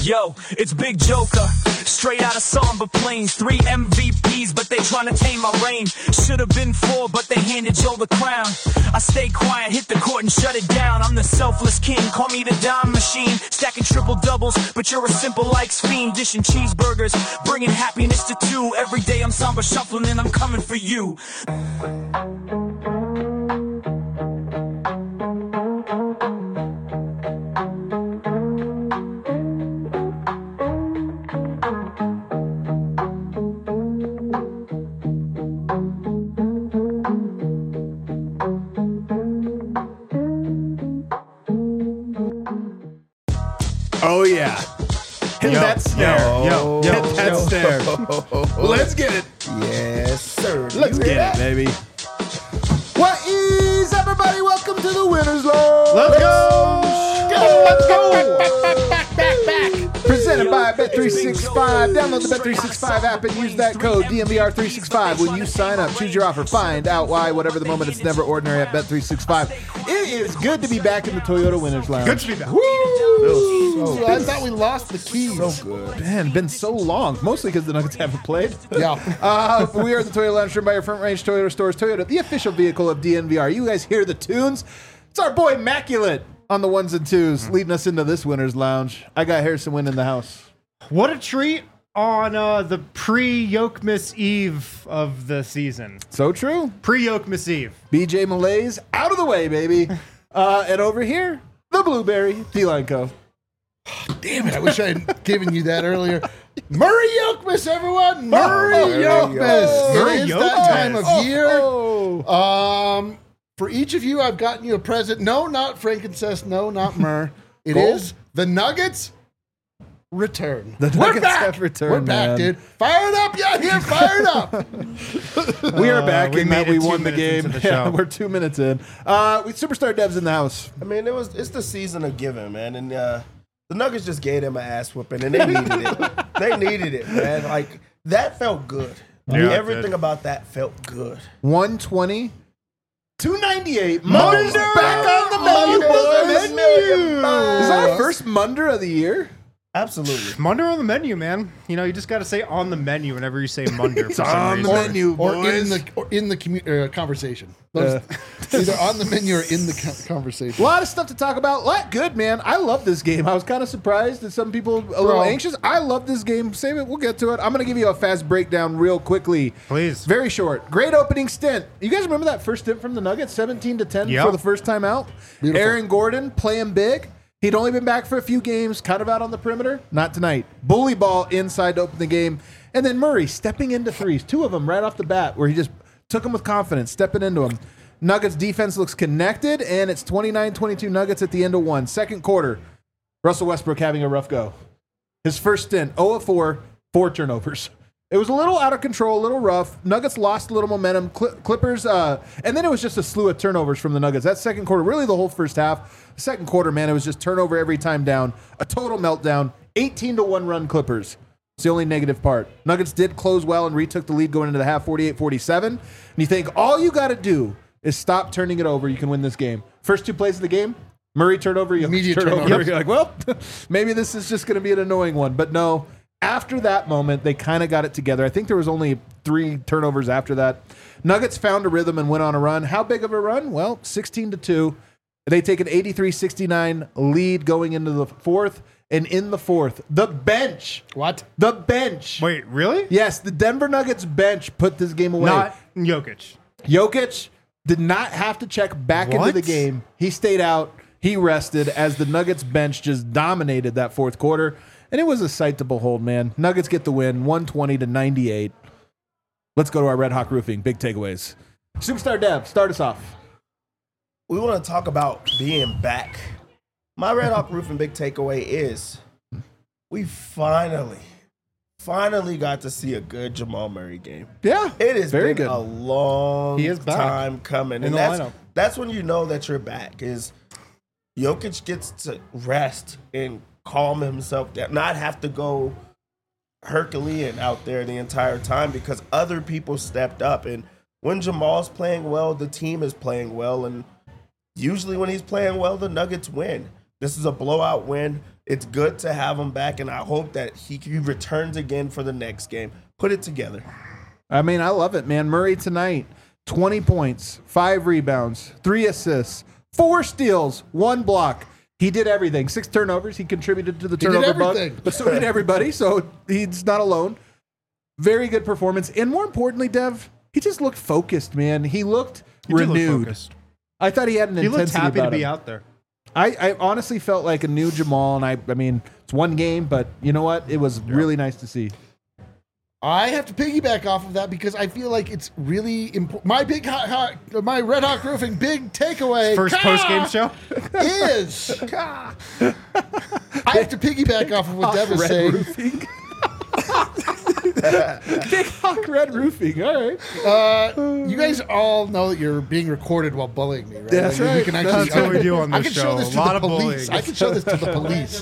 Yo, it's Big Joker, straight out of Samba Plains. 3 MVPs, but they tryna tame my reign. Should've been 4, but they handed Joe the crown. I stay quiet, hit the court and shut it down. I'm the selfless king, call me the dime machine. Stacking triple doubles, but you're a simple likes fiend. Dishing cheeseburgers, bringing happiness to 2. Every day I'm Samba shuffling and I'm coming for you. Oh, yeah. Hit that snare. Hit that snare. Let's get it. Yes, sir. Let's get it, baby. What is everybody? Welcome to the Winners Lounge. Let's go. Let's go. Back. Presented by Bet365. Download the Bet365 app and use that code DMVR365 when you sign up. Choose your offer. Find out why. Whatever the moment, it's never ordinary at Bet365. It is good to be back in the Toyota Winners Lounge. Good to be back. Woo! I thought we lost the keys. So good. Man, been so long. Mostly because the Nuggets haven't played. Yeah. We are the Toyota Lounge, driven by your Front Range Toyota stores. Toyota, the official vehicle of DNVR. You guys hear the tunes? It's our boy Immaculate on the ones and twos, leading us into this Winners Lounge. I got Harrison Wynn in the house. What a treat on the pre-Yokmas Eve of the season. So true. Pre-Yokmas Eve. BJ Malays out of the way, baby. And over here, the Blueberry D-Line Co. Damn it. I wish I had given you that earlier. Murray Yokmas, everyone. Murray Yokmas. Murray It is that time of year. Oh. For each of you, I've gotten you a present. No, not frankincense. No, not myrrh. It Gold? is the Nuggets return. The We're Nuggets back. have returned, We're back, man. dude. Fired up. Yeah, here. Fired up. We are back we in that made it we 2 won the minutes game. into the Yeah, show. we're 2 minutes in. With Superstar Devs in the house. I mean, it's the season of giving, man, and the Nuggets just gave them an ass whooping, and they needed it. They needed it, man. Like that felt good. Yeah, it Everything did. about that felt good. 120. 298. Munder's Munder's back on the menu, Munder's boys. back. Is that our first Munder of the year? Absolutely. Munder on the menu, man. You know, you just got to say on the menu whenever you say Munder for It's some on the reason. menu, Or boys. in the conversation. Either on the menu or in the A conversation. lot of stuff to talk about. A lot good, man. I love this game. I was kind of surprised that some people a little anxious. I love this game. Save it. We'll get to it. I'm going to give you a fast breakdown real quickly. Please. Very short. Great opening stint. You guys remember that first stint from the Nuggets? 17-10 Yeah. for the first time out. Beautiful. Aaron Gordon playing big. He'd only been back for a few games, kind of out on the perimeter. Not tonight. Bully ball inside to open the game. And then Murray stepping into threes. 2 of them right off the bat where he just took them with confidence, stepping into them. Nuggets defense looks connected, and it's 29-22 Nuggets at the end of 1. Second quarter, Russell Westbrook having a rough go. His first stint, 0 of 4, 4 turnovers. It was a little out of control, a little rough. Nuggets lost a little momentum. Clippers, and then it was just a slew of turnovers from the Nuggets. That second quarter, really the whole first half. The second quarter, man, it was just turnover every time down. A total meltdown. 18-1 run Clippers. It's the only negative part. Nuggets did close well and retook the lead going into the half, 48-47. And you think all you got to do is stop turning it over. You can win this game. First 2 plays of the game, Murray turnover, Immediate turnover. turnover. You're like, well, maybe this is just going to be an annoying one. But no, after that moment, they kind of got it together. I think there was only 3 turnovers after that. Nuggets found a rhythm and went on a run. How big of a run? Well, 16-2. They take an 83-69 lead going into the fourth. And in the fourth, the bench. What? The bench. Wait, really? Yes, the Denver Nuggets bench put this game away. Not Jokic. Jokic did not have to check back into What? the game. He stayed out. He rested as the Nuggets bench just dominated that fourth quarter. And it was a sight to behold, man. Nuggets get the win, 120-98. Let's go to our Red Hawk Roofing. Big takeaways. Superstar Dev, start us off. We want to talk about being back. My Red Hawk Roofing big takeaway is we finally got to see a good Jamal Murray game. Yeah, It has very been good. a long He is back time coming. in And the lineup. that's when you know that you're back, is Jokic gets to rest and calm himself down, not have to go Herculean out there the entire time because other people stepped up. And when Jamal's playing well, the team is playing well. And usually when he's playing well, the Nuggets win. This is a blowout win. It's good to have him back, and I hope that he returns again for the next game. Put it together. I mean, I love it, man. Murray tonight, 20 points, 5 rebounds, 3 assists, 4 steals, 1 block. He did everything. 6 turnovers. He contributed to the turnover bug, but so did everybody, so he's not alone. Very good performance. And more importantly, Dev, he just looked focused, man. He looked renewed. I thought he had an intensity He looked happy to about be him. out there. I honestly felt like a new Jamal, and I mean, it's one game, but you know what? It was really nice to see. I have to piggyback off of that because I feel like it's really important. My Red Hawk Roofing big takeaway First post-game show? is I have to piggyback off of what Dev is Red saying. Roofing. Big Hawk Red Roofing. All right. You guys all know that you're being recorded while bullying me, right? That's Like, right. You can actually, That's what we do on I this can show. show this A to lot the of police. bullying. I can show this to the police.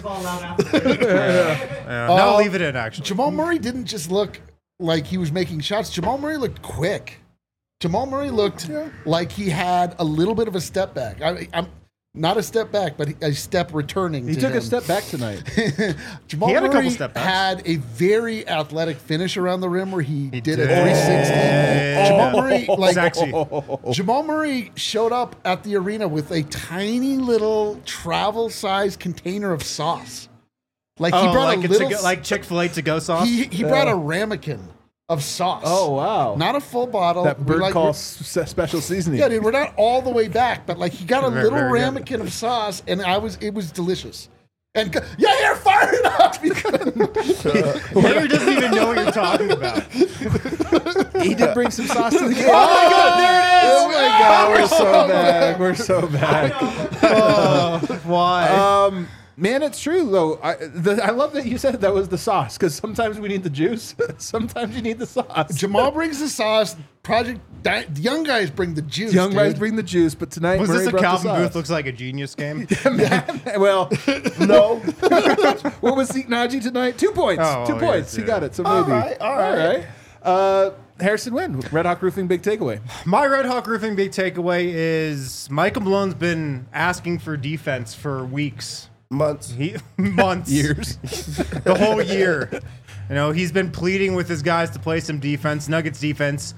No, I'll leave it in, actually. Jamal Murray didn't just look like he was making shots. Jamal Murray looked quick. Jamal Murray looked like he had a little bit of a step back. I'm not a step back, but a step returning. He to took him. a step back tonight. Jamal He had a couple Murray step backs. had a very athletic finish around the rim where he did a did. 360. Jamal Murray, like Sexy. Jamal Murray, showed up at the arena with a tiny little travel-sized container of sauce. Like he brought like a little, like Chick-fil-A to-go sauce? he brought a ramekin of sauce. Oh, wow. Not a full bottle. That bird We're call we're- special seasening. Yeah, dude, we're not all the way back, but like he got a Very, little very good. ramekin of sauce, and it was delicious. And yeah, you're fired up. Larry doesn't even know what you're talking about. He did bring some sauce to the game. Oh my God, there it is! Oh my God, we're so back. We're so back. Why? Man, it's true though. I love that you said that was the sauce because sometimes we need the juice, sometimes you need the sauce. Jamal brings the sauce. The young guys bring the juice. Young guys dude. bring the juice, but tonight Was Murray this a brought the Calvin sauce. Booth looks like a genius game? Well, No. what was Zeke Naji tonight? 2 points. Oh, 2 yes, points. He yeah. got it. So maybe. All right. Harrison Wynn, Red Hawk Roofing, big takeaway. My Red Hawk Roofing big takeaway is Michael Malone's been asking for defense for weeks. Months. Months. Years. The whole year. You know, he's been pleading with his guys to play some defense. Nuggets defense.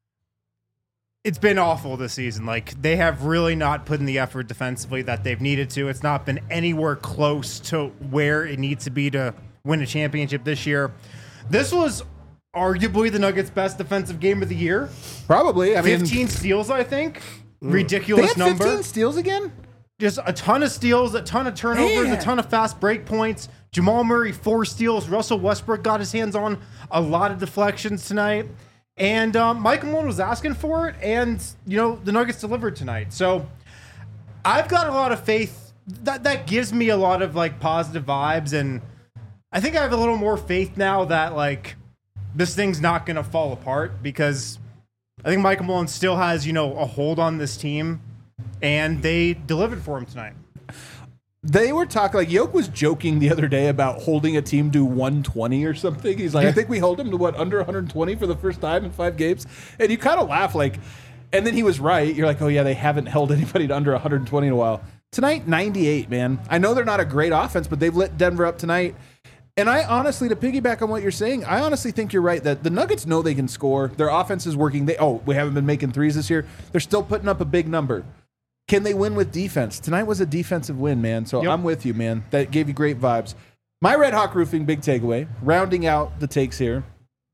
It's been awful this season. Like, they have really not put in the effort defensively that they've needed to. It's not been anywhere close to where it needs to be to win a championship this year. This was arguably the Nuggets' best defensive game of the year. Probably. I mean, 15 steals, I think. they Ridiculous had number. 15 steals again? Just a ton of steals, a ton of turnovers, Man. a ton of fast break points. Jamal Murray, 4 steals. Russell Westbrook got his hands on a lot of deflections tonight. And Michael Malone was asking for it, and, you know, the Nuggets delivered tonight. So I've got a lot of faith. That gives me a lot of, like, positive vibes, and I think I have a little more faith now that, like, this thing's not going to fall apart because I think Michael Malone still has, you know, a hold on this team. And they delivered for him tonight. They were talking, like, Yoke was joking the other day about holding a team to 120 or something. He's like, I think we hold him to, under 120 for the first time in 5 games? And you kind of laugh, like, and then he was right. You're like, oh, yeah, they haven't held anybody to under 120 in a while. Tonight, 98, man. I know they're not a great offense, but they've lit Denver up tonight. And I honestly, to piggyback on what you're saying, I honestly think you're right that the Nuggets know they can score. Their offense is working. We haven't been making threes this year. They're still putting up a big number. Can they win with defense? Tonight was a defensive win, man. So Yep. I'm with you, man. That gave you great vibes. My Red Hawk Roofing big takeaway, rounding out the takes here.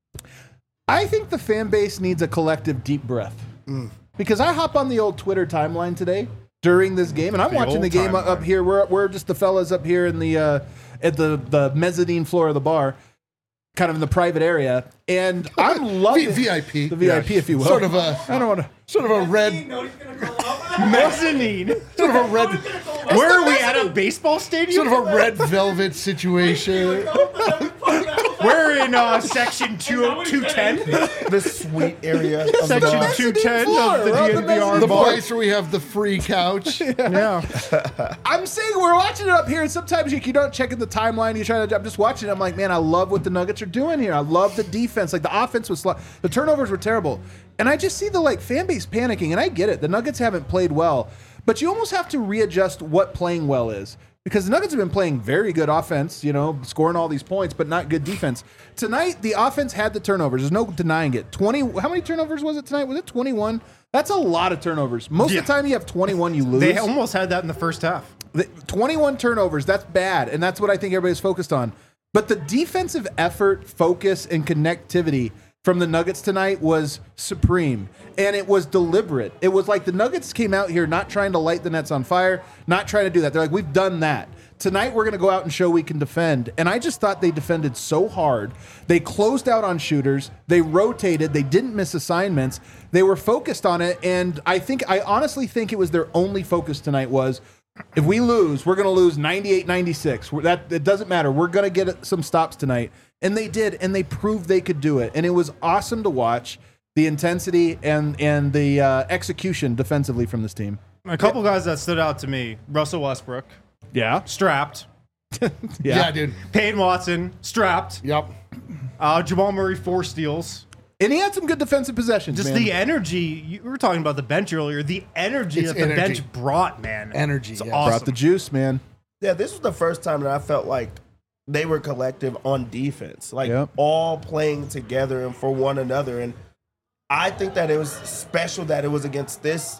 I think the fan base needs a collective deep breath. Because I hop on the old Twitter timeline today during this game, and I'm The watching old the game timeline. up here. We're just the fellas up here in the at the mezzanine floor of the bar, kind of in the private area, and I'm loving VIP. the VIP, if you will. Sort of a I don't want to. sort of a red Mezzanine. sort of a red Where are we at a baseball stadium? sort of a red velvet situation. We're in section 210. The sweet area of the Section bar. 210 floor. of the We're on the DNVR mezzanine The floor. bar. place where we have the free couch. Yeah. I'm saying we're watching it up here, and sometimes you don't check in the timeline. You try to. I'm just watching it. I'm like, man, I love what the Nuggets are doing here. I love the defense. Like the offense was, the turnovers were terrible, and I just see the fan base panicking. And I get it. The Nuggets haven't played well, but you almost have to readjust what playing well is. because the Nuggets have been playing very good offense, scoring all these points, but not good defense. Tonight, the offense had the turnovers. There's no denying it. How many turnovers was it tonight? Was it 21? That's a lot of turnovers. Most of the time you have 21, you lose. They almost had that in the first half. 21 turnovers, that's bad, and that's what I think everybody's focused on. But the defensive effort, focus, and connectivity from the Nuggets tonight was supreme, and it was deliberate. It was like the Nuggets came out here not trying to light the Nets on fire, not trying to do that. They're like, we've done that. Tonight we're going to go out and show we can defend, and I just thought they defended so hard. They closed out on shooters. They rotated. They didn't miss assignments. They were focused on it, and I honestly think it was their only focus tonight was, if we lose, we're going to lose 98-96. It doesn't matter. We're going to get some stops tonight. And they did, and they proved they could do it. And it was awesome to watch the intensity and the execution defensively from this team. A couple guys that stood out to me: Russell Westbrook, Yeah. strapped. Yeah, dude. Peyton Watson, strapped. Yep. Jamal Murray, 4 steals. And he had some good defensive possessions, Just man. the energy. You were talking about the bench earlier. The energy It's that the energy. bench brought, man. Energy, It's yeah. awesome. Brought the juice, man. Yeah, this was the first time that I felt like they were collective on defense, like Yep. all playing together and for one another. And I think that it was special that it was against this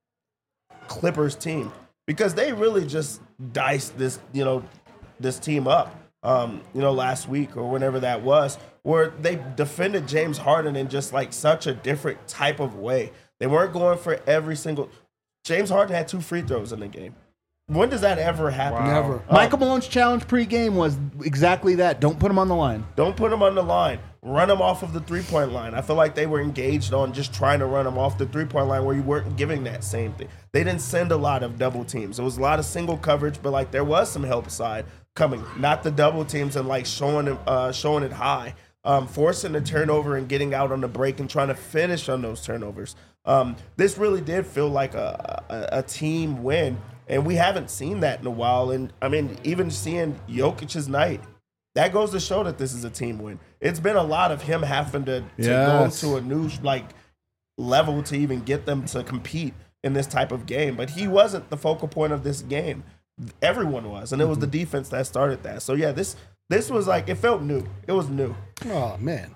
Clippers team because they really just diced this, this team up, last week or whenever that was, where they defended James Harden in just like such a different type of way. They weren't going for every single. James Harden had 2 free throws in the game. When does that ever happen? Never. Michael Malone's challenge pre-game was exactly that. Don't put him on the line. Don't put him on the line. Run him off of the three-point line. I feel like they were engaged on just trying to run him off the three-point line where you weren't giving that same thing. They didn't send a lot of double teams. It was a lot of single coverage, but like there was some help side coming. Not the double teams and like showing it high. Forcing the turnover and getting out on the break and trying to finish on those turnovers. This really did feel like a team win. And we haven't seen that in a while. And, I mean, even seeing Jokic's night, that goes to show that this is a team win. It's been a lot of him having to Yes. go to a new, level to even get them to compete in this type of game. But he wasn't the focal point of this game. Everyone was. And it was the defense that started that. So, yeah, this was it felt new. It was new. Oh, man.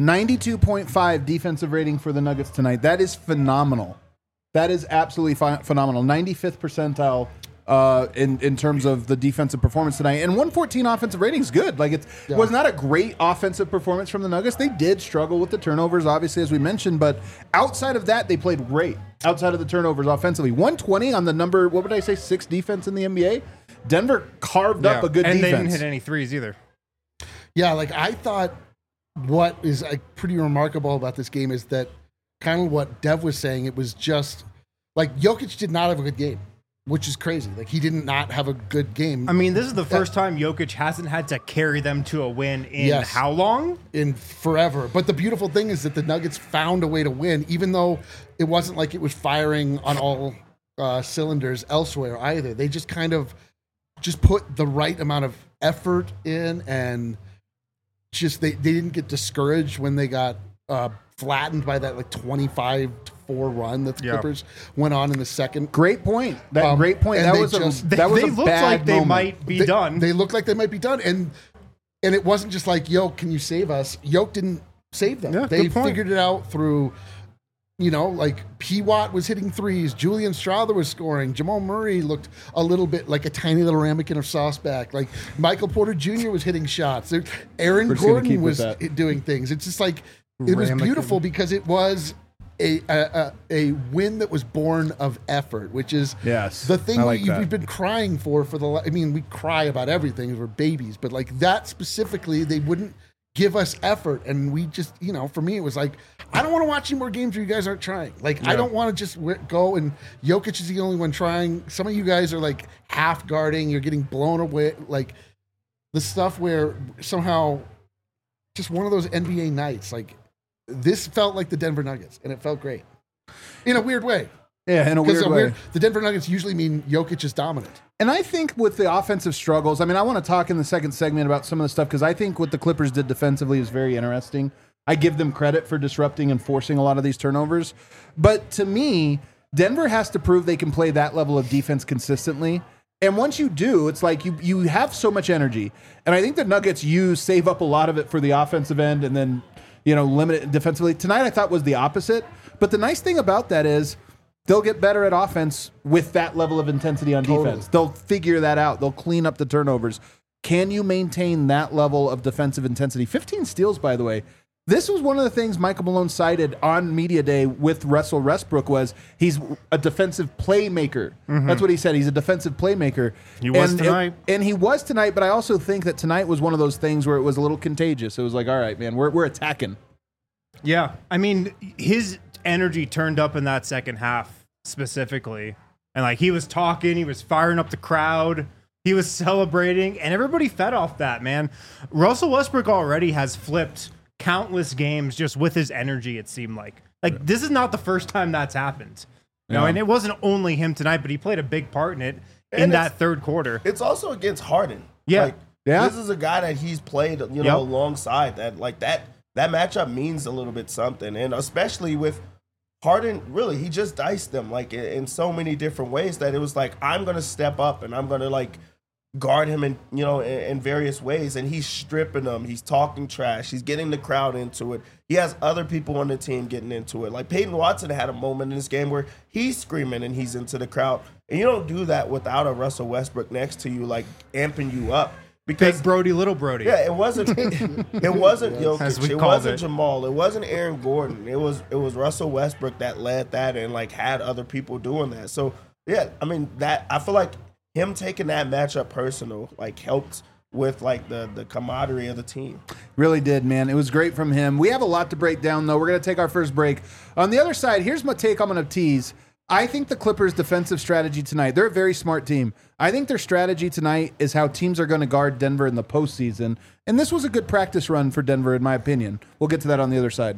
92.5 defensive rating for the Nuggets tonight. That is phenomenal. That is absolutely phenomenal. 95th percentile in terms of the defensive performance tonight. And 114 offensive rating is good. Like, it was not a great offensive performance from the Nuggets. They did struggle with the turnovers, obviously, as we mentioned. But outside of that, they played great. Outside of the turnovers offensively. 120 on the number, what would I say, 6 defense in the NBA? Denver carved up a good and defense. they didn't hit any threes either. Yeah, I thought what is pretty remarkable about this game is that kind of what Dev was saying, it was just Jokic did not have a good game, which is crazy. He did not have a good game. I mean, this is the first time Jokic hasn't had to carry them to a win in how long? In forever. But the beautiful thing is that the Nuggets found a way to win, even though it wasn't like it was firing on all cylinders elsewhere either. They just kind of put the right amount of effort in, and just they didn't get discouraged when they got flattened by that 25-4 run that the Clippers went on in the second. Great point. Great point. And That was They a looked bad like they moment. might be done. They looked like they might be done, and it wasn't just Yoke, can you save us? Yoke didn't save them. Yeah, They good point. figured it out through, P. Watt was hitting threes, Julian Strawther was scoring, Jamal Murray looked a little bit like a tiny little ramekin of sauce back. Michael Porter Jr. was hitting shots. Aaron We're just gonna Gordon keep with was that. doing things. It's just it was beautiful because it was a win that was born of effort, which is Yes, the thing I like that. we've been crying for the. We cry about everything. We're babies, but that specifically, they wouldn't give us effort, and we just, for me, it was I don't want to watch any more games where you guys aren't trying. I don't want to just go and Jokic is the only one trying. Some of you guys are half guarding. You're getting blown away. The stuff where somehow just one of those NBA nights, this felt like the Denver Nuggets, and it felt great in a weird way. Yeah, in a weird way. The Denver Nuggets usually mean Jokic is dominant. And I think with the offensive struggles, I want to talk in the second segment about some of the stuff because I think what the Clippers did defensively is very interesting. I give them credit for disrupting and forcing a lot of these turnovers. But to me, Denver has to prove they can play that level of defense consistently. And once you do, it's like you have so much energy. And I think the Nuggets save up a lot of it for the offensive end and then, limit it defensively. Tonight I thought was the opposite. But the nice thing about that is they'll get better at offense with that level of intensity on defense. They'll figure that out. They'll clean up the turnovers. Can you maintain that level of defensive intensity? 15 steals, by the way. This was one of the things Michael Malone cited on Media Day with Russell Westbrook was he's a defensive playmaker. That's what he said. He's a defensive playmaker. He was tonight. And he was tonight, but I also think that tonight was one of those things where it was a little contagious. It was like, all right, man, we're attacking. Yeah. I mean, his energy turned up in that second half specifically. And like he was talking, he was firing up the crowd. He was celebrating, and everybody fed off that, man. Russell Westbrook already has flipped countless games just with his energy, it seemed like. Like, this is not the first time that's happened. And it wasn't only him tonight, but he played a big part in it in that third quarter. It's also against Harden. Yeah. This is a guy that he's played, alongside that. Like, that matchup means a little bit something. And especially with Harden, really, he just diced them, like, in so many different ways that it was like, I'm going to step up and I'm going to, like, guard him in various ways, and he's stripping them. He's talking trash. He's getting the crowd into it. He has other people on the team getting into it. Like Peyton Watson had a moment in this game where he's screaming and he's into the crowd, and you don't do that without a Russell Westbrook next to you, like amping you up. Because Big Brody, little Brody. Yeah, it wasn't Jokic. As we It called wasn't it. Jamal. It wasn't Aaron Gordon. It was Russell Westbrook that led that and like had other people doing that. So yeah, I mean that I feel like him taking that matchup personal like helped with like the camaraderie of the team. Really did, man. It was great from him. We have a lot to break down, though. We're going to take our first break. On the other side, here's my take I'm going to tease. I think the Clippers' defensive strategy tonight, they're a very smart team. I think their strategy tonight is how teams are going to guard Denver in the postseason. And this was a good practice run for Denver, in my opinion. We'll get to that on the other side.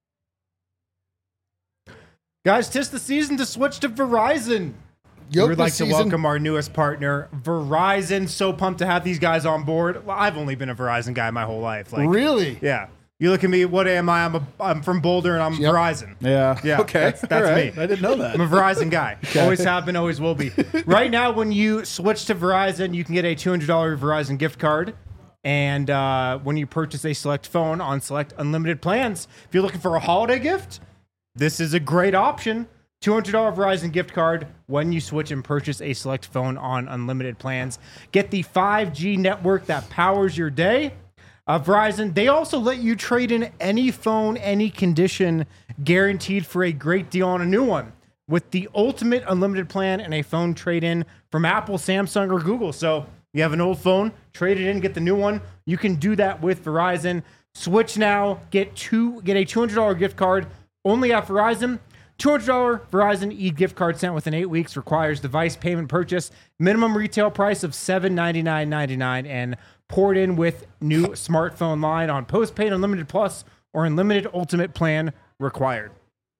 Guys, 'tis the season to switch to Verizon. We would like to welcome our newest partner, Verizon. So pumped to have these guys on board. Well, I've only been a Verizon guy my whole life. Like, Really? Yeah. You look at me, what am I? I'm from Boulder, and I'm Verizon. Yeah. Yeah, Okay. that's All right. me. I didn't know that. I'm a Verizon guy. Always have been, always will be. Right now, when you switch to Verizon, you can get a $200 Verizon gift card. And when you purchase a select phone on select unlimited plans, if you're looking for a holiday gift, this is a great option. $200 Verizon gift card when you switch and purchase a select phone on unlimited plans. Get the 5G network that powers your day. Verizon, they also let you trade in any phone, any condition, guaranteed for a great deal on a new one. With the ultimate unlimited plan and a phone trade-in from Apple, Samsung, or Google. So you have an old phone, trade it in, get the new one. You can do that with Verizon. Switch now, get a $200 gift card only at Verizon. $200 Verizon e-gift card sent within 8 weeks, requires device payment purchase, minimum retail price of $799.99, and poured in with new smartphone line on postpaid Unlimited Plus or Unlimited Ultimate plan required.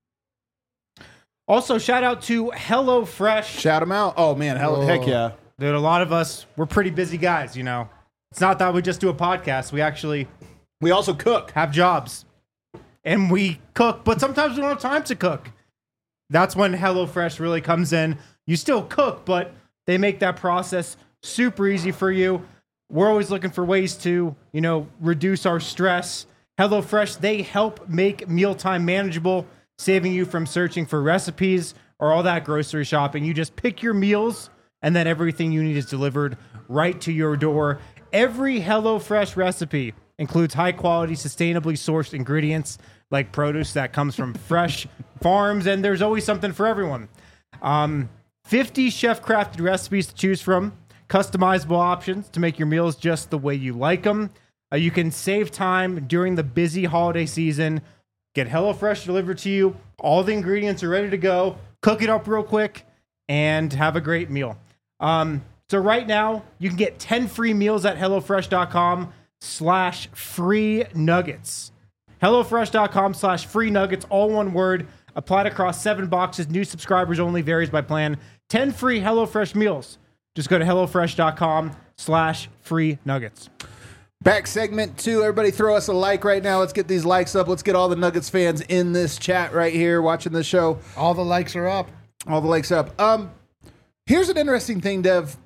Also, shout out to HelloFresh. Shout them out. Oh, man. Heck yeah. Dude, a lot of us, we're pretty busy guys, you know. It's not that we just do a podcast. We also cook. have jobs. And we cook, but sometimes we don't have time to cook. That's when HelloFresh really comes in. You still cook, but they make that process super easy for you. We're always looking for ways to, reduce our stress. HelloFresh, they help make mealtime manageable, saving you from searching for recipes or all that grocery shopping. You just pick your meals, and then everything you need is delivered right to your door. Every HelloFresh recipe includes high-quality, sustainably sourced ingredients like produce that comes from fresh farms, and there's always something for everyone. 50 chef-crafted recipes to choose from, customizable options to make your meals just the way you like them. You can save time during the busy holiday season. Get HelloFresh delivered to you. All the ingredients are ready to go. Cook it up real quick and have a great meal. So right now, you can get 10 free meals at HelloFresh.com/free nuggets. HelloFresh.com/free nuggets, all one word. Applied across 7 boxes. New subscribers only, varies by plan. 10 free HelloFresh meals. Just go to HelloFresh.com/free nuggets. Back segment 2. Everybody throw us a like right now. Let's get these likes up. Let's get all the Nuggets fans in this chat right here watching the show. All the likes are up. All the likes up. Here's an interesting thing, Dev.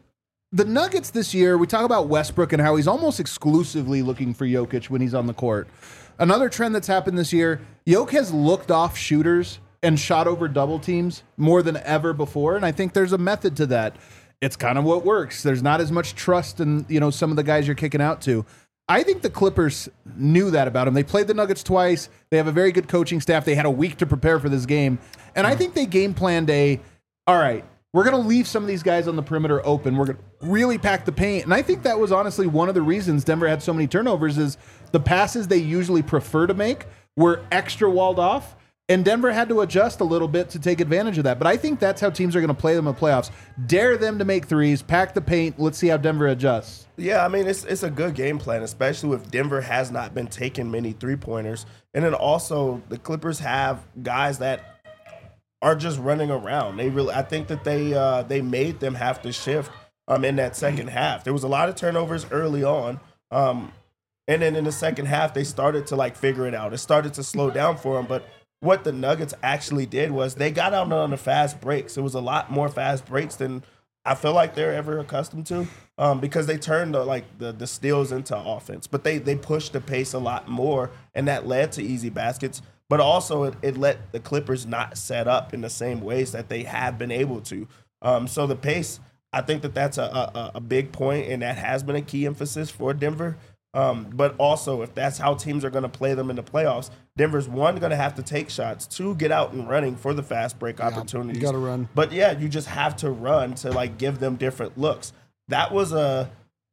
the Nuggets this year, we talk about Westbrook and how he's almost exclusively looking for Jokic when he's on the court. Another trend that's happened this year, Jokic has looked off shooters and shot over double teams more than ever before, and I think there's a method to that. It's kind of what works. There's not as much trust in, some of the guys you're kicking out to. I think the Clippers knew that about him. They played the Nuggets twice. They have a very good coaching staff. They had a week to prepare for this game. And I think they game planned all right, we're going to leave some of these guys on the perimeter open. We're going to really pack the paint. And I think that was honestly one of the reasons Denver had so many turnovers is the passes they usually prefer to make were extra walled off. And Denver had to adjust a little bit to take advantage of that. But I think that's how teams are going to play them in the playoffs. Dare them to make threes, pack the paint. Let's see how Denver adjusts. Yeah, I mean, it's a good game plan, especially if Denver has not been taking many three-pointers. And then also the Clippers have guys that are just running around. I think that they made them have to shift in that second half. There was a lot of turnovers early on. And then in the second half, they started to figure it out. It started to slow down for them, but what the Nuggets actually did was they got out on the fast breaks. It was a lot more fast breaks than I feel like they're ever accustomed to because they turned the steals into offense. But they pushed the pace a lot more, and that led to easy baskets. But also it let the Clippers not set up in the same ways that they have been able to. So the pace, I think that's a big point, and that has been a key emphasis for Denver. But also, if that's how teams are going to play them in the playoffs, Denver's one, going to have to take shots, two, get out and running for the fast break opportunities. You got to run. But yeah, you just have to run to give them different looks. That was a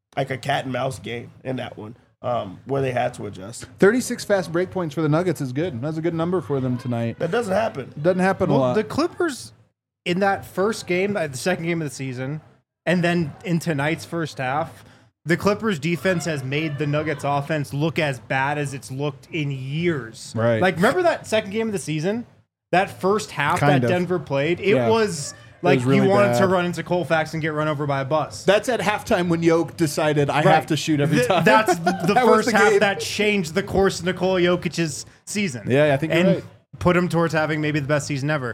cat and mouse game in that one where they had to adjust. 36 fast break points for the Nuggets is good. That's a good number for them tonight. That doesn't happen. Doesn't happen a lot. The Clippers in that first game, the second game of the season, and then in tonight's first half, the Clippers defense has made the Nuggets offense look as bad as it's looked in years. Right. Remember that second game of the season? That first half Kind that of. Denver played? It Yeah. was was really you wanted bad. to run into Colfax and get run over by a bus. That's at halftime when Jokic decided I have to shoot every time. That's the That was first the half game. that changed the course of Nikola Jokic's season. Yeah, I think you're and right. put him towards having maybe the best season ever.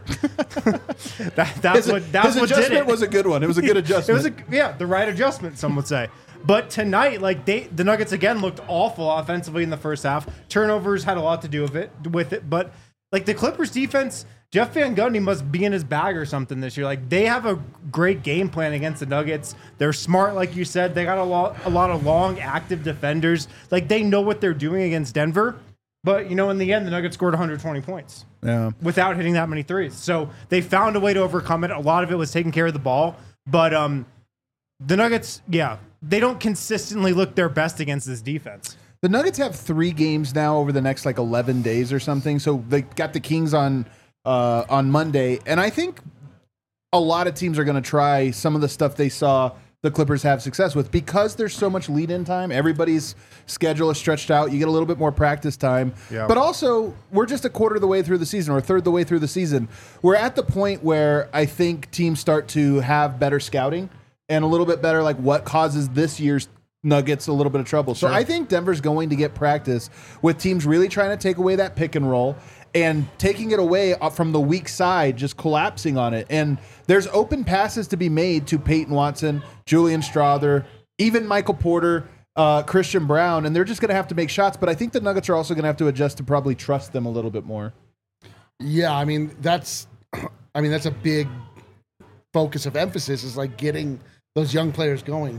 His That's what did adjustment it. was a good one. It was a good It adjustment. was the right adjustment, some would say. But tonight, the Nuggets again looked awful offensively in the first half. Turnovers had a lot to do with it. But the Clippers defense, Jeff Van Gundy must be in his bag or something this year. They have a great game plan against the Nuggets. They're smart, like you said. They got a lot of long, active defenders. They know what they're doing against Denver. But in the end, the Nuggets scored 120 points. Yeah. Without hitting that many threes. So they found a way to overcome it. A lot of it was taking care of the ball. But the Nuggets, they don't consistently look their best against this defense. The Nuggets have 3 games now over the next 11 days or something. So they got the Kings on Monday. And I think a lot of teams are going to try some of the stuff they saw the Clippers have success with because there's so much lead-in time. Everybody's schedule is stretched out. You get a little bit more practice time. Yeah. But also, we're just a quarter of the way through the season or a third of the way through the season. We're at the point where I think teams start to have better scouting and a little bit better what causes this year's Nuggets a little bit of trouble. So I think Denver's going to get practice with teams really trying to take away that pick and roll and taking it away from the weak side, just collapsing on it. And there's open passes to be made to Peyton Watson, Julian Strawther, even Michael Porter, Christian Brown, and they're just going to have to make shots. But I think the Nuggets are also going to have to adjust to probably trust them a little bit more. Yeah, that's a big focus of emphasis is getting those young players going,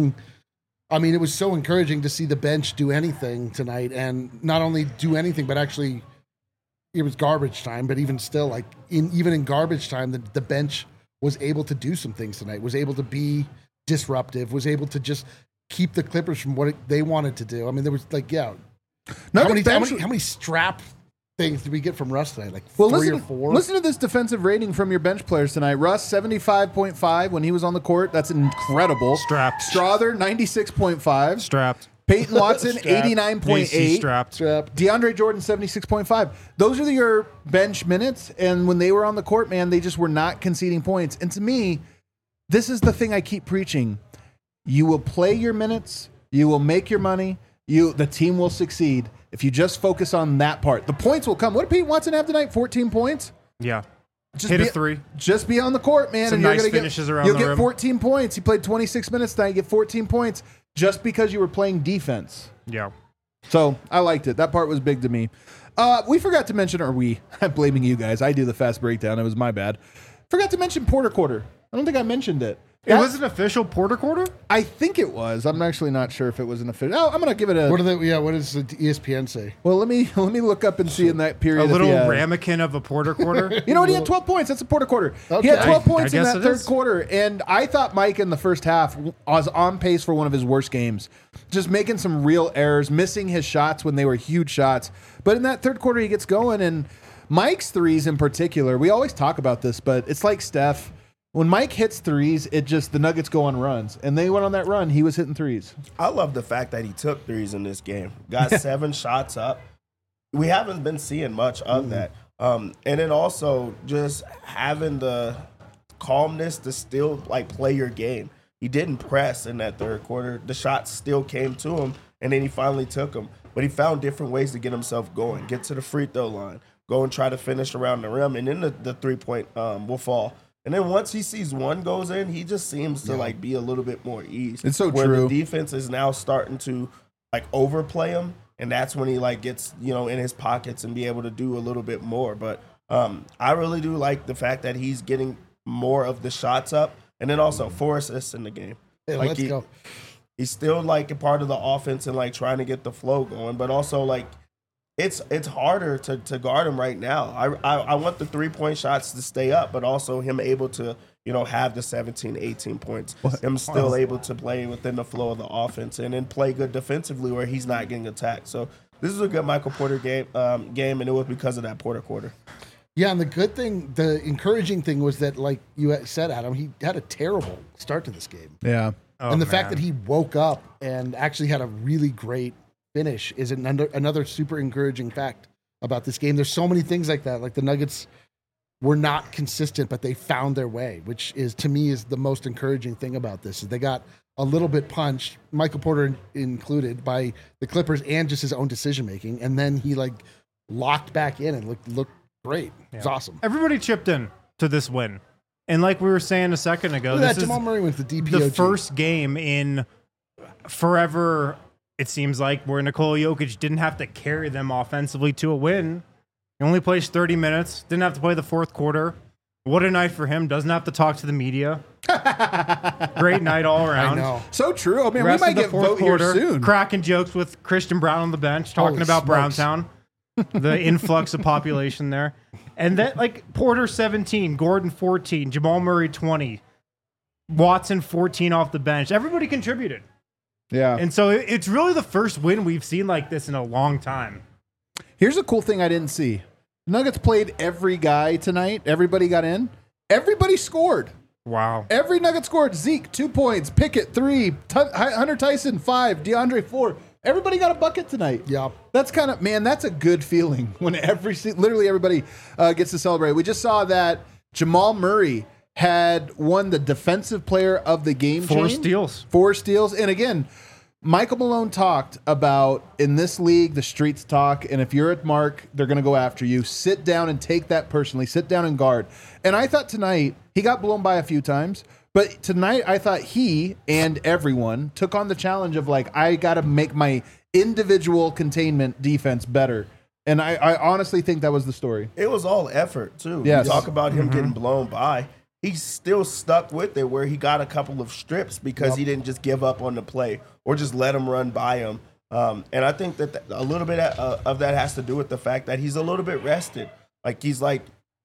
it was so encouraging to see the bench do anything tonight, and not only do anything, but actually it was garbage time. But even still, even in garbage time, the bench was able to do some things tonight, was able to be disruptive, was able to just keep the Clippers from what they wanted to do. There was how many strap things did we get from Russ tonight? 3 or 4? Listen to this defensive rating from your bench players tonight. Russ, 75.5 when he was on the court. That's incredible. Strapped. Strawther, 96.5. Strapped. Peyton Watson, JC 89.8. strapped. DeAndre Jordan, 76.5. Those are your bench minutes, and when they were on the court, man, they just were not conceding points. And to me, this is the thing I keep preaching. You will play your minutes. You will make your money. The team will succeed if you just focus on that part. The points will come. What did Peyton Watson have tonight? 14 points? Yeah. Hit a three. Just be on the court, man. Some and you're nice gonna finishes around You'll the get rim. 14 points. He played 26 minutes tonight. You get 14 points just because you were playing defense. Yeah. So I liked it. That part was big to me. We forgot to mention, I'm blaming you guys. I do the fast breakdown. It was my bad. Forgot to mention Porter Quarter. I don't think I mentioned it. It was an official Porter Quarter? I think it was. I'm actually not sure if it was an official. Oh, I'm gonna give it a. What does the ESPN say? Well, let me look up and see in that period. A if little he had- ramekin of a Porter Quarter? You know what? He had 12 points. That's a Porter Quarter. Okay. He had 12 I points in guess that it third is. quarter, and I thought Mike in the first half was on pace for one of his worst games. Just making some real errors, missing his shots when they were huge shots. But in that third quarter, he gets going, and Mike's threes in particular. We always talk about this, but it's like Steph. When Mike hits threes, the Nuggets go on runs, and they went on that run. He was hitting threes. I love the fact that he took threes in this game. Got 7 shots up. We haven't been seeing much of that. And then also just having the calmness to still like play your game. He didn't press in that third quarter. The shots still came to him, and then he finally took them. But he found different ways to get himself going, get to the free throw line, go and try to finish around the rim, and then the 3-point will fall. And then once he sees one goes in, he just seems to like be a little bit more eased. It's so where true. the defense is now starting to like overplay him, and that's when he like gets in his pockets and be able to do a little bit more. But I really do like the fact that he's getting more of the shots up, and then also 4 assists in the game. Hey, Like, let's go. He's still like a part of the offense and like trying to get the flow going, but also like it's harder to guard him right now. I want the 3-point shots to stay up, but also him able to have the 17, 18 points. Him still able to play within the flow of the offense and then play good defensively where he's not getting attacked. So this is a good Michael Porter game, and it was because of that Porter Quarter. Yeah, and the encouraging thing was that, like you said, Adam, he had a terrible start to this game. Yeah. And the fact that he woke up and actually had a really great finish is another super encouraging fact about this game. There's so many things like that. Like the Nuggets were not consistent, but they found their way, which is, to me, is the most encouraging thing about this. Is they got a little bit punched, Michael Porter included, by the Clippers and just his own decision making, and then he like locked back in and looked great. It was awesome. Everybody chipped in to this win. And like we were saying a second ago, Look at this that, is Jamal Murray went to the DPOG. the first game in forever, it seems like, where Nikola Jokic didn't have to carry them offensively to a win. He only plays 30 minutes, didn't have to play the fourth quarter. What a night for him. Doesn't have to talk to the media. Great night all I around. know. So true. Oh, man, Rest we might of the get fourth vote here quarter, soon. cracking jokes with Christian Brown on the bench, talking Holy about smokes. Browntown, the influx of population there. And then, like, Porter 17, Gordon 14, Jamal Murray 20, Watson 14 off the bench. Everybody contributed. Yeah. And so it's really the first win we've seen like this in a long time. Here's a cool thing I didn't see. The Nuggets played every guy tonight. Everybody got in. Everybody scored. Wow. Every Nugget scored. Zeke, 2 points. Pickett, 3. Hunter Tyson, 5. DeAndre, 4. Everybody got a bucket tonight. Yeah. That's kind of, man, that's a good feeling when literally everybody gets to celebrate. We just saw that Jamal Murray had won the defensive player of the game. 4 chain. steals. 4 steals. And again, Michael Malone talked about, in this league, the streets talk, and if you're at Mark, they're going to go after you. Sit down and take that personally. Sit down and guard. And I thought tonight, he got blown by a few times, but tonight I thought he and everyone took on the challenge of, like, I got to make my individual containment defense better. And I honestly think that was the story. It was all effort, too. Yes. You talk about him getting blown by. He still stuck with it where he got a couple of strips because he didn't just give up on the play or just let him run by him. And I think that a little bit of that has to do with the fact that he's a little bit rested. Like he's like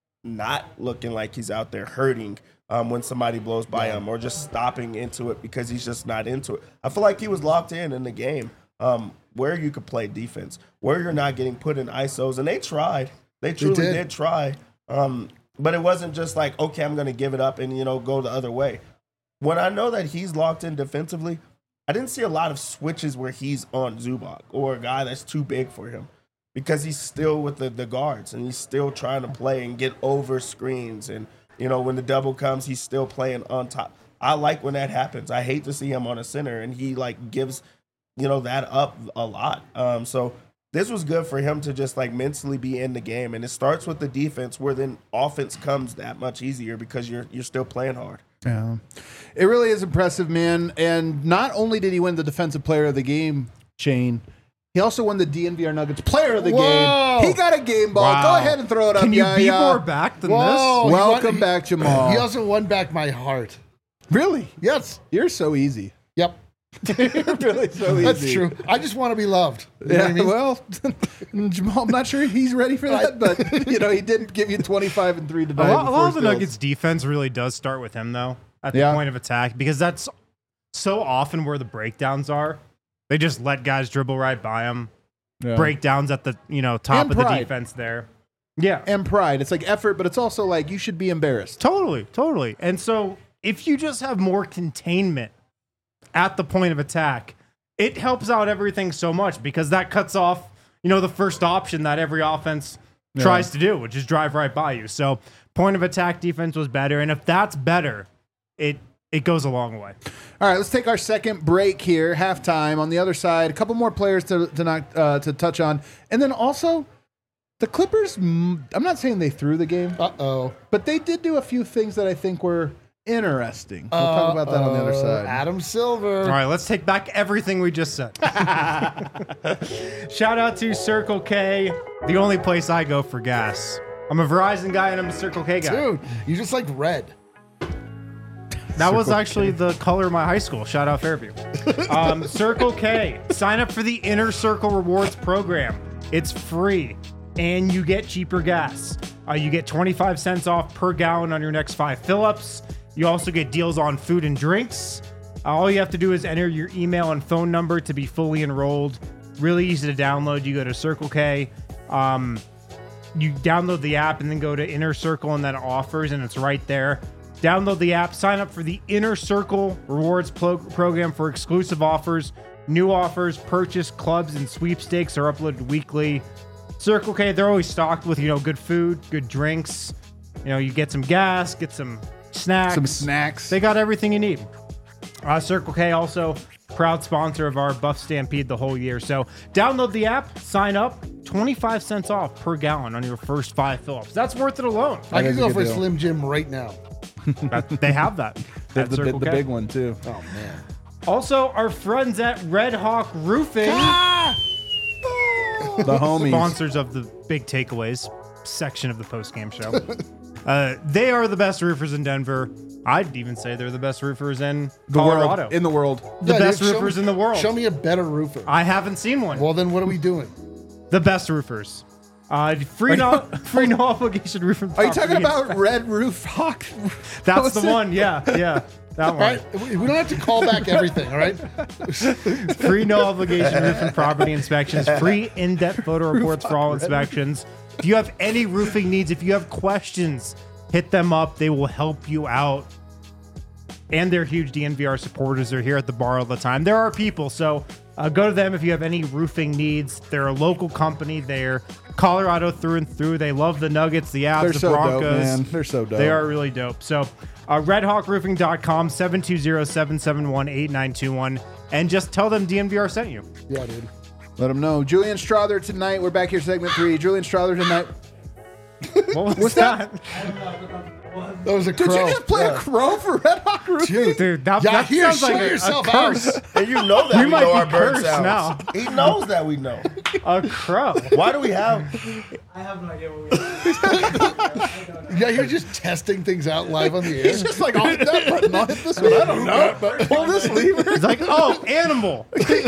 not looking like he's out there hurting when somebody blows by him or just stopping into it because he's just not into it. I feel like he was locked in the game where you could play defense, where you're not getting put in ISOs. And they tried. They truly did try. But it wasn't just like, okay, I'm going to give it up and, go the other way. When I know that he's locked in defensively, I didn't see a lot of switches where he's on Zubac or a guy that's too big for him because he's still with the guards and he's still trying to play and get over screens. And, when the double comes, he's still playing on top. I like when that happens. I hate to see him on a center and he, like, gives, that up a lot. So this was good for him to just like mentally be in the game. And it starts with the defense, where then offense comes that much easier because you're still playing hard. Yeah. It really is impressive, man. And not only did he win the Defensive Player of the Game, Shane, he also won the DNVR Nuggets Player of the Game. He got a game ball. Wow. Go ahead and throw it up. Can you be more back than Whoa. this? Welcome back, Jamal. He also won back my heart. Really? Yes. You're so easy. Yep. You're really so easy. That's true. I just want to be loved. You know what I mean? Well, Jamal, I'm not sure he's ready for that, but he didn't give you 25 and 3 tonight. A lot of the Nuggets defense really does start with him, though, at the point of attack, because that's so often where the breakdowns are. They just let guys dribble right by him. Yeah. Breakdowns at the top And of the pride. defense there. Yeah. And pride. It's like effort, but it's also like you should be embarrassed. Totally. And so if you just have more containment at the point of attack, it helps out everything so much, because that cuts off, the first option that every offense tries to do, which is drive right by you. So point of attack defense was better. And if that's better, it goes a long way. All right, let's take our second break here, halftime. On the other side, a couple more players to touch on. And then also, the Clippers, I'm not saying they threw the game, but they did do a few things that I think were interesting. We'll talk about that on the other side. Adam Silver. All right, let's take back everything we just said. Shout out to Circle K, the only place I go for gas. I'm a Verizon guy and I'm a Circle K guy. Dude, you just like red. That was actually the color of my high school. Shout out Fairview. Circle K. Sign up for the Inner Circle Rewards program. It's free, and you get cheaper gas. You get 25 cents off per gallon on your next 5 fill-ups. You also get deals on food and drinks. All you have to do is enter your email and phone number to be fully enrolled. Really easy to download. You go to Circle K. You download the app and then go to Inner Circle and then offers, and it's right there. Download the app, sign up for the Inner Circle Rewards program for exclusive offers. New offers, purchase, clubs, and sweepstakes are uploaded weekly. Circle K, they're always stocked with, good food, good drinks. You get some gas, get some snacks. They got everything you need. Circle K also proud sponsor of our Buff Stampede the whole year. So download the app, sign up, 25 cents off per gallon on your first 5 fill-ups. That's worth it alone. I can is a go good for deal. Slim Jim right now. They have that. They at have the Circle K. big one, too. Oh, man. Also, our friends at Red Hawk Roofing, The homies. sponsors of the Big Takeaways section of the post-game show. They are the best roofers in Denver. I'd even say they're the best roofers in Colorado. In the world. The Yeah, best dude, show roofers me- in the world. Show me a better roofer. I haven't seen one. Well, then what are we doing? The best roofers. Free no obligation roofing. Are you talking property about inspection. Red Roof Hawk? That's Was the it? one. Yeah. That All one. right? We don't have to call back everything, all right? Free no obligation roof and property inspections. Free in-depth photo reports for all inspections. If you have any roofing needs, if you have questions, hit them up. They will help you out. And they're huge DNVR supporters. They're here at the bar all the time. There are people, so go to them if you have any roofing needs. They're a local company. They're Colorado through and through. They love the Nuggets, the Avs, They're the so Broncos. dope, man. They're so dope. They are really dope. So redhawkroofing.com, 720-771-8921. And just tell them DNVR sent you. Yeah, dude. Let them know. Julian Strother tonight. We're back here, segment 3. Julian Strother tonight. What was that? That was a crow. Did you just play a crow for Red Hawk Roofing? Dude, that here, sounds show like yourself a curse. out. And you know that We we might know be our bird cursed sounds. now. He knows that we know. A crow. Why do we have? I have no idea what we Yeah, you're just testing things out live on the air. He's just like, I'll hit that button. I'll hit this one. I don't know. But pull this lever. It's like, oh, animal.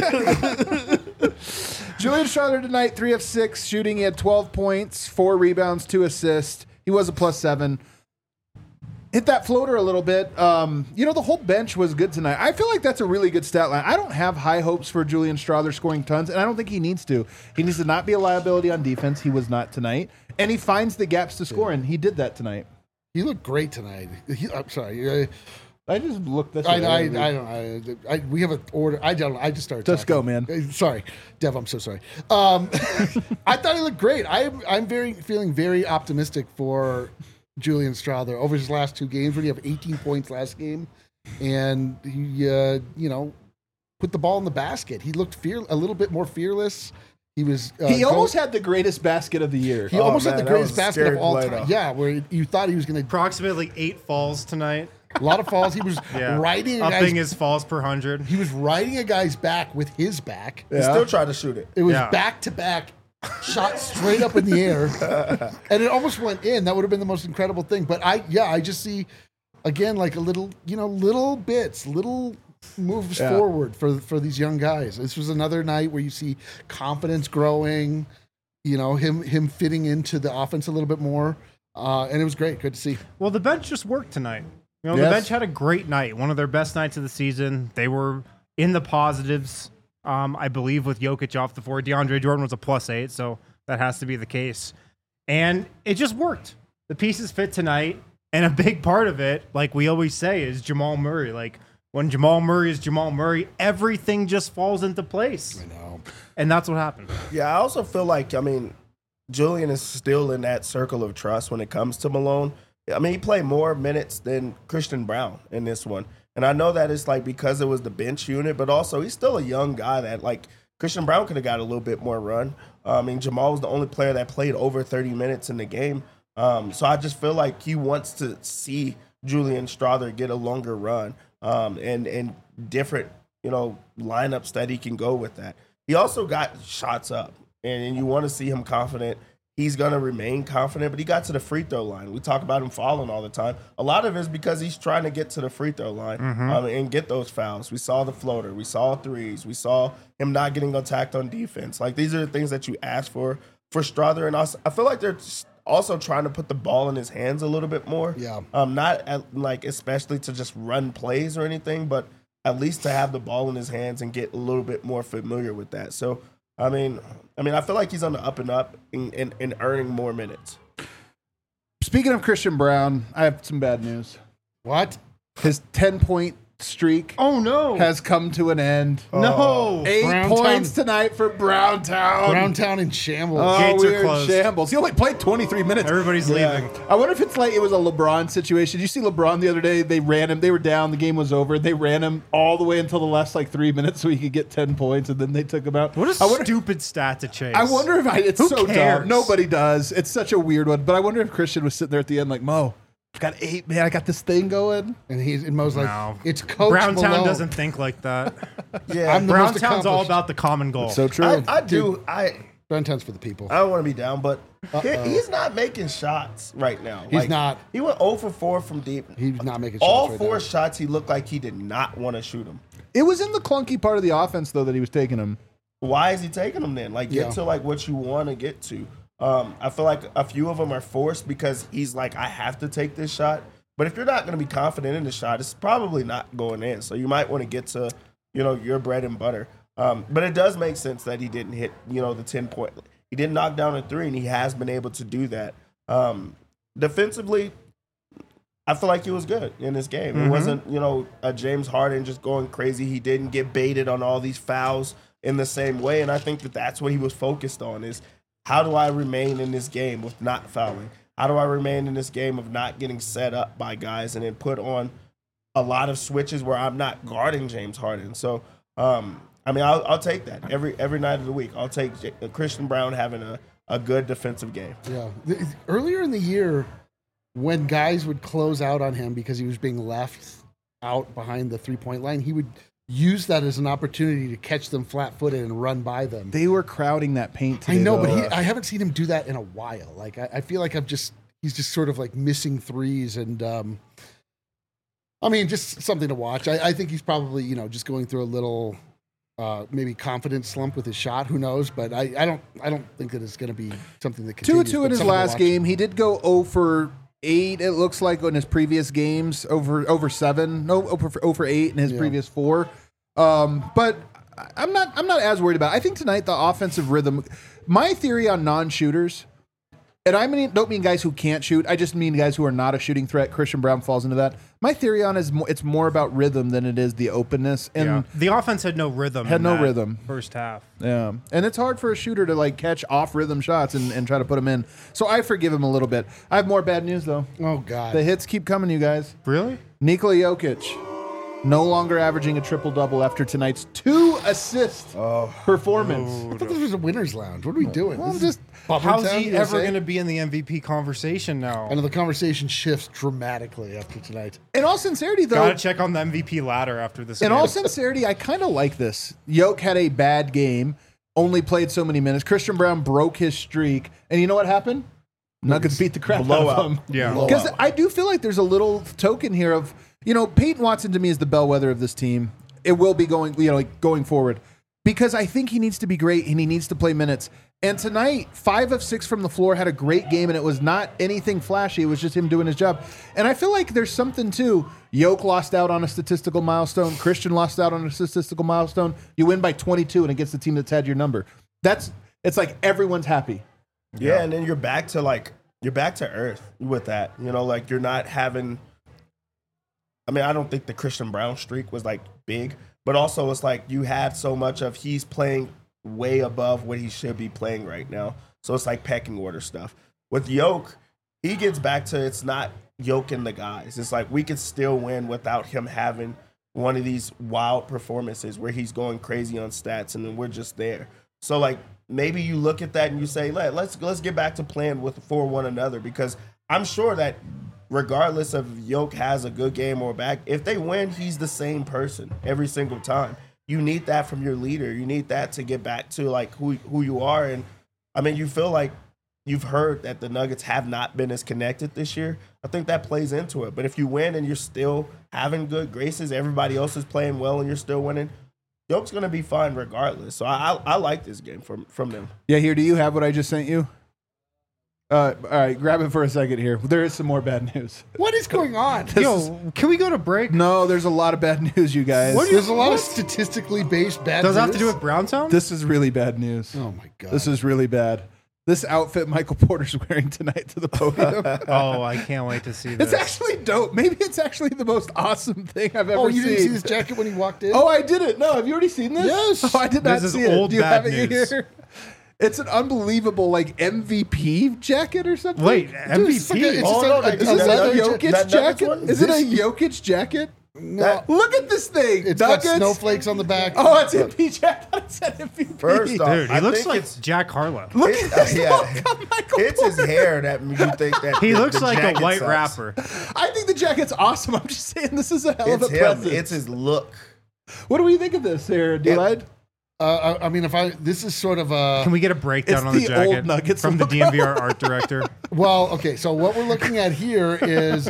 Julian Strother tonight, 3 of 6 shooting. He had 12 points, 4 rebounds, 2 assists. He was a +7. Hit that floater a little bit. The whole bench was good tonight. I feel like that's a really good stat line. I don't have high hopes for Julian Strother scoring tons, and I don't think he needs to. He needs to not be a liability on defense. He was not tonight. And he finds the gaps to score, and he did that tonight. You look great tonight. I'm sorry. I just looked this I way. don't. We have an order. I don't. I just started. Just talking. go, man. Sorry, Dev. I'm so sorry. I thought he looked great. I'm feeling very optimistic for Julian Strother over his last 2 games. When he have 18 points last game, and he put the ball in the basket. He looked a little bit more fearless. He was. He almost had the greatest basket of the year. He almost had man, the that greatest was basket scary of all play, time. though. Yeah, where you thought he was going to. Approximately 8 falls tonight. A lot of falls. He was Yeah. riding a Upping guy's. his falls per 100. He was riding a guy's back with his back. He still tried to shoot it. It was Yeah. back to back, shot straight up in the air, and it almost went in. That would have been the most incredible thing. But I just see again like a little, little bits, little moves forward for these young guys. This was another night where you see confidence growing. Him fitting into the offense a little bit more, and it was great. Good to see. Well, the bench just worked tonight. The Yes. bench had a great night, one of their best nights of the season. They were in the positives, I believe, with Jokic off the floor. DeAndre Jordan was a +8, so that has to be the case. And it just worked. The pieces fit tonight, and a big part of it, like we always say, is Jamal Murray. Like, when Jamal Murray is Jamal Murray, everything just falls into place. I know. And that's what happened. Yeah, I also feel like, Julian is still in that circle of trust when it comes to Malone. He played more minutes than Christian Brown in this one. And I know that it's like because it was the bench unit, but also he's still a young guy that like Christian Brown could have got a little bit more run. Jamal was the only player that played over 30 minutes in the game. So I just feel like he wants to see Julian Strawther get a longer run and different, lineups that he can go with that. He also got shots up, and you want to see him confident. He's going to remain confident, but he got to the free throw line. We talk about him falling all the time. A lot of it is because he's trying to get to the free throw line and get those fouls. We saw the floater. We saw threes. We saw him not getting attacked on defense. Like, these are the things that you ask for Strawther. And also, I feel like they're also trying to put the ball in his hands a little bit more. Yeah. Especially to just run plays or anything, but at least to have the ball in his hands and get a little bit more familiar with that. So, I feel like he's on the up and up and earning more minutes. Speaking of Christian Brown, I have some bad news. What? His 10-point streak Oh, no. has come to an end. No. 8 Browntown. points tonight for Browntown. Browntown in shambles. Oh, Gates are we're in closed. shambles. He only played 23 minutes. Everybody's leaving. I wonder if it's like it was a LeBron situation. Did you see LeBron the other day? They ran him. They were down. The game was over. They ran him all the way until the last 3 minutes so he could get 10 points, and then they took him out. What a I wonder, stupid stat to chase. I wonder if it's Who so cares? dumb. Nobody does. It's such a weird one. But I wonder if Christian was sitting there at the end like, Mo, I've got 8, man. I got this thing going. And Mo's like, No. it's Coach Browntown Malone. doesn't think like that. Yeah, I'm the most Browntown's all accomplished. about the common goal. So true. I Browntown's for the people. don't want to be down, but he's not making shots right now. He's not. He went 0 for 4 from deep. He's not making shots All right 4 now. shots, he looked like he did not want to shoot them. It was in the clunky part of the offense, though, that he was taking him. Why is he taking them then? Like, get Yeah. to what you want to get to. I feel like a few of them are forced because he's like, I have to take this shot. But if you're not going to be confident in the shot, it's probably not going in. So you might want to get to, your bread and butter. But it does make sense that he didn't hit, the 10-point. He didn't knock down a 3, and he has been able to do that. Defensively, I feel like he was good in this game. It wasn't, a James Harden just going crazy. He didn't get baited on all these fouls in the same way. And I think that that's what he was focused on is how do I remain in this game with not fouling? How do I remain in this game of not getting set up by guys and then put on a lot of switches where I'm not guarding James Harden? So, I'll take that every night of the week. I'll take Christian Brown having a good defensive game. Yeah. Earlier in the year, when guys would close out on him because he was being left out behind the 3-point line, he would use that as an opportunity to catch them flat-footed and run by them. They were crowding that paint I today, know, though. but I haven't seen him do that in a while. Like I feel like he's just sort of like missing threes, and just something to watch. I think he's probably just going through a little maybe confidence slump with his shot. Who knows? But I don't think that it's going to be something that continues. 2-2 in his last game. He did go 0 for 8. It looks like in his previous games, over 7. No, 0 for 8 in his previous 4. But I'm not as worried about it. I think tonight the offensive rhythm. My theory on non-shooters, and don't mean guys who can't shoot. I just mean guys who are not a shooting threat. Christian Brown falls into that. My theory on it's more about rhythm than it is the openness. And The offense had no rhythm. Had in no that rhythm. First half. yeah, and it's hard for a shooter to catch off rhythm shots and try to put them in. So I forgive him a little bit. I have more bad news though. Oh God! The hits keep coming, you guys. Really? Nikola Jokic no longer averaging a triple-double after tonight's 2-assist performance. I thought this was a winner's lounge. What are we doing? Well, This is Bummer How's Town, he USA? ever going to be in the MVP conversation now? I know the conversation shifts dramatically after tonight. In all sincerity, though, Gotta check on the MVP ladder after this. in game. all sincerity, I kind of like this. Yoke had a bad game, only played so many minutes. Christian Brown broke his streak, and you know what happened? Nuggets beat the crap out Blowout. of him. Yeah. Because I do feel like there's a little token here of, Peyton Watson to me is the bellwether of this team. It will be going forward, because I think he needs to be great and he needs to play minutes. And tonight, 5 of 6 from the floor, had a great game, and it was not anything flashy. It was just him doing his job. And I feel like there's something too. Yoke lost out on a statistical milestone. Christian lost out on a statistical milestone. You win by 22, and it gets the team that's had your number. It's like everyone's happy. Yeah, and then you're back to earth with that. You're not having. I mean, I don't think the Christian Brown streak was like big, but also it's like you had so much of he's playing way above what he should be playing right now. So it's like pecking order stuff. With Yoke, he gets back to it's not Yoke and the guys. It's like we could still win without him having one of these wild performances where he's going crazy on stats and then we're just there. So like maybe you look at that and you say, let's get back to playing for one another, because I'm sure that regardless of Yoke has a good game or bad, if they win, he's the same person every single time. You need that from your leader. You need that to get back to like who you are. And I mean, you feel like you've heard that the Nuggets have not been as connected this year. I think that plays into it. But if you win and you're still having good graces, everybody else is playing well and you're still winning, Yoke's going to be fine regardless. So I like this game from them. Yeah, here, do you have what I just sent you? All right, grab it for a second here. There is some more bad news. What is going on? Yo, can we go to break? No, there's a lot of bad news, you guys. There's a lot of statistically based bad Does it news. have to do with Browntown? This is really bad news. Oh, my God. This is really bad. This outfit Michael Porter's wearing tonight to the podium. Oh, I can't wait to see this. It's actually dope. Maybe it's actually the most awesome thing I've ever Oh, seen. you didn't see this jacket when he walked in? Oh, I didn't. No, have you already seen this? Yes. Oh, I did not This is see it. old Do you bad have it news. here? It's an unbelievable MVP jacket or something. Wait, Dude, MVP? it's like a- it's Oh, just no, a- that- it's Is a this a leather Nuggets- Jokic that Nuggets jacket? one? Is it a This- Jokic jacket? No. Look at this thing. It's got Nuggets. snowflakes on the back. Oh, it's MPJ. I thought it said MVP. First off, Dude, he I looks think like it's- Jack Harlow. Look at this yeah. look on Michael It's his Porter. hair that you think that He the- looks the like a jacket white sucks. rapper. I think the jacket's awesome. I'm just saying this is a hell It's of a him. present. It's his look. What do we think of this here, D-Lide? I mean, this is sort of a. Can we get a breakdown It's on the the jacket old Nuggets from the logo. DMVR art director? Well, okay, so what we're looking at here is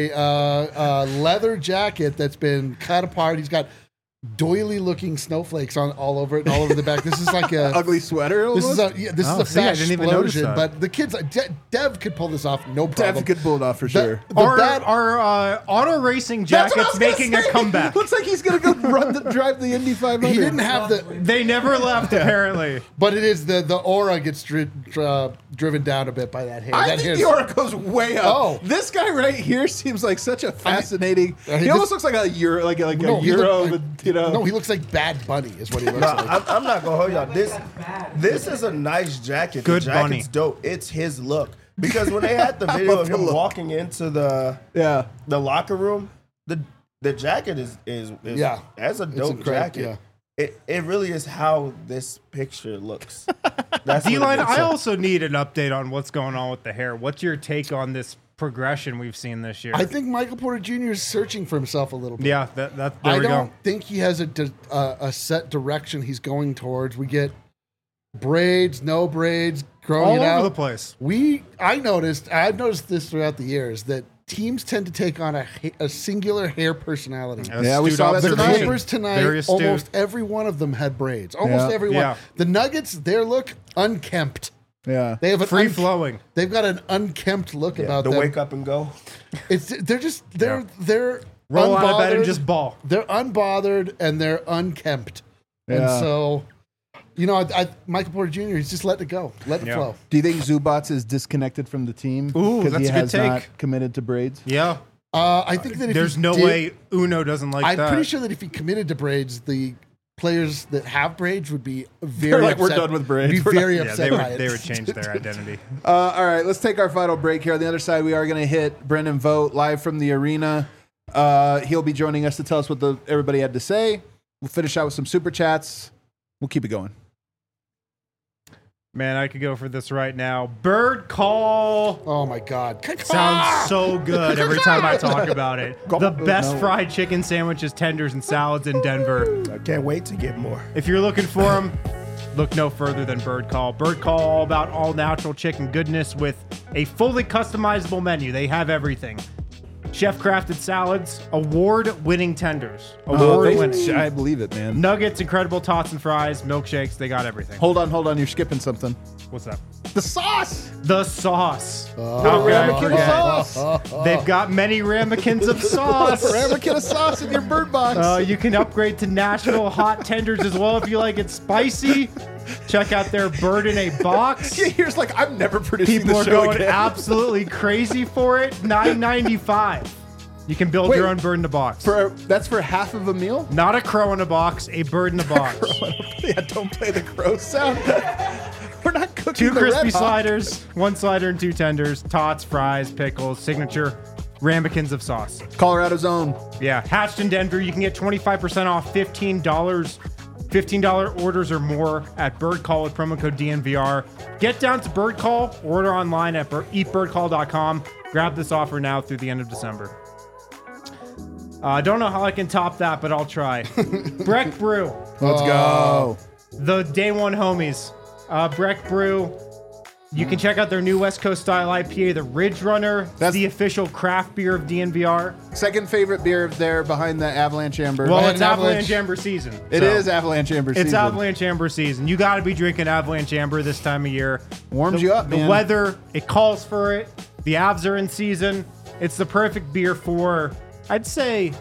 a leather jacket that's been cut apart. He's got doily-looking snowflakes on all over it and all over the back. This is like a Ugly sweater. This is almost? this Oh, is a see, I fat didn't even notice explosion. that. But the kids, Dev could pull this off, no problem. Dev could pull it off for The- sure. the Our, bad- our auto racing That's what I jacket's was gonna making a say. comeback. Looks like he's gonna go drive the Indy 500. he didn't have the, They never left, apparently. but it is the aura gets driven down a bit by that hair. I That think hair's- the aura goes way up. Oh. This guy right here seems like such a fascinating. I mean, he this- almost looks like a Euro, like a No, he Euro. look- with, No, he looks like Bad Bunny is what he looks No, like. I'm not gonna hold y'all. This is a nice jacket. Good the jacket's bunny. dope. It's his look. Because when they had the video of him walking into the locker room, the jacket is Yeah. that's a dope incredible, jacket. It really is how this picture looks. That's what D-Line, it is. I also need an update on what's going on with the hair. What's your take on this progression we've seen this year? I think Michael Porter Jr. is searching for himself a little bit. yeah, there I we don't go. think he has a set direction he's going towards. We get braids, no braids, growing All it over out. the place. I've noticed this throughout the years that teams tend to take on a singular hair personality. Yeah, we Astute saw that The tonight. observation. Clippers tonight, Very astute. almost every one of them had braids. Almost Yeah. every one. Yeah. The Nuggets, their look unkempt. Yeah. They have an Free flowing. They've got an unkempt look Yeah, about the them. wake up and go. They're Roll out of bed and unbothered. just ball. They're unbothered and they're unkempt. And Yeah. so, Michael Porter Jr. He's just let it go, let it Yeah. flow. Do you think Zubats is disconnected from the team Ooh, because he that's a good has take. not committed to braids? Yeah. I think that if There's he no did- way Uno doesn't like I'm that. pretty sure that if he committed to braids, the players that have braids would be very like, "We're upset. done with braids. Be We're very yeah, upset by it. they would change their identity. All right, let's take our final break here. On the other side, we are going to hit Brendan Vogt live from the arena. He'll be joining us to tell us what everybody had to say. We'll finish out with some super chats. We'll keep it going. Man, I could go for this right now. Bird call. Oh my God. Sounds so good every time I talk about it. The best No. fried chicken sandwiches, tenders, and salads in Denver. I can't wait to get more. If you're looking for them, look no further than Bird Call. Bird Call, all about all natural chicken goodness with a fully customizable menu. They have everything. Chef-crafted salads, award-winning tenders. Award-winning. I believe it, man. Nuggets, incredible tots and fries, milkshakes, they got everything. Hold on. You're skipping something. What's up? The sauce. The sauce. Ramekin sauce. They've got many ramekins of sauce. Ramekin of sauce in your bird box. You can upgrade to Nashville hot tenders as well if you like it spicy. Check out their bird in a box. Yeah, here's like, I'm never producing People the are show going again. absolutely crazy for it. $9.95. You can build your own bird in a box. That's for half of a meal? Not a crow in a box, a bird in a box. Yeah, don't play the crow sound. We're not cooking 2 the crispy Red Hot. sliders, 1 slider and 2 tenders, tots, fries, pickles, signature ramekins of sauce. Colorado's own. Yeah, hatched in Denver. You can get 25% off $15 orders or more at Bird Call with promo code DNVR. Get down to Bird Call, order online at eatbirdcall.com. Grab this offer now through the end of December. I don't know how I can top that, but I'll try. Breck Brew, Let's go. the day one homies. Breck Brew. You can check out their new West Coast style IPA, the Ridge Runner. That's the official craft beer of DNVR. Second favorite beer there behind the Avalanche Amber. Well, Behind it's Avalanche. Avalanche Amber season. It so. is Avalanche Amber season. It's Avalanche Amber season. You got to be drinking Avalanche Amber this time of year. Warms you up, The man. weather, it calls for it. The Avs are in season. It's the perfect beer for, I'd say,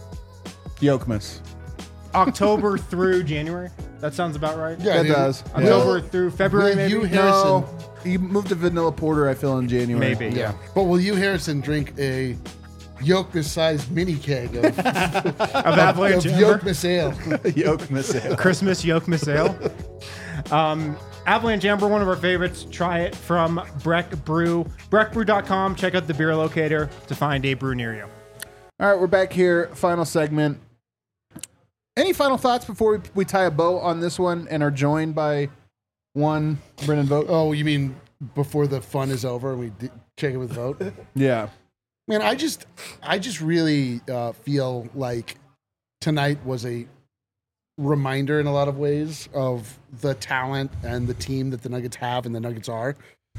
Yokmas. October through January. That sounds about right. Yeah, That dude. does. October through February, Will maybe. you, Harrison? No, you moved to vanilla porter, I feel, in January. Maybe. Yeah. But will you, Harrison, drink a Yokmas-sized mini keg of Avalanche Amber. Yokmas ale? Yokmas ale. Christmas Yokmas Ale. Avalanche Amber, one of our favorites. Try it from Breck Brew. BreckBrew.com. Check out the beer locator to find a brew near you. All right, we're back here. Final segment. Any final thoughts before we tie a bow on this one and are joined by one Brennan Vogt? Oh, you mean before the fun is over and we check it with Vote? Yeah. Man, I just really feel like tonight was a reminder in a lot of ways of the talent and the team that the Nuggets have and the Nuggets are.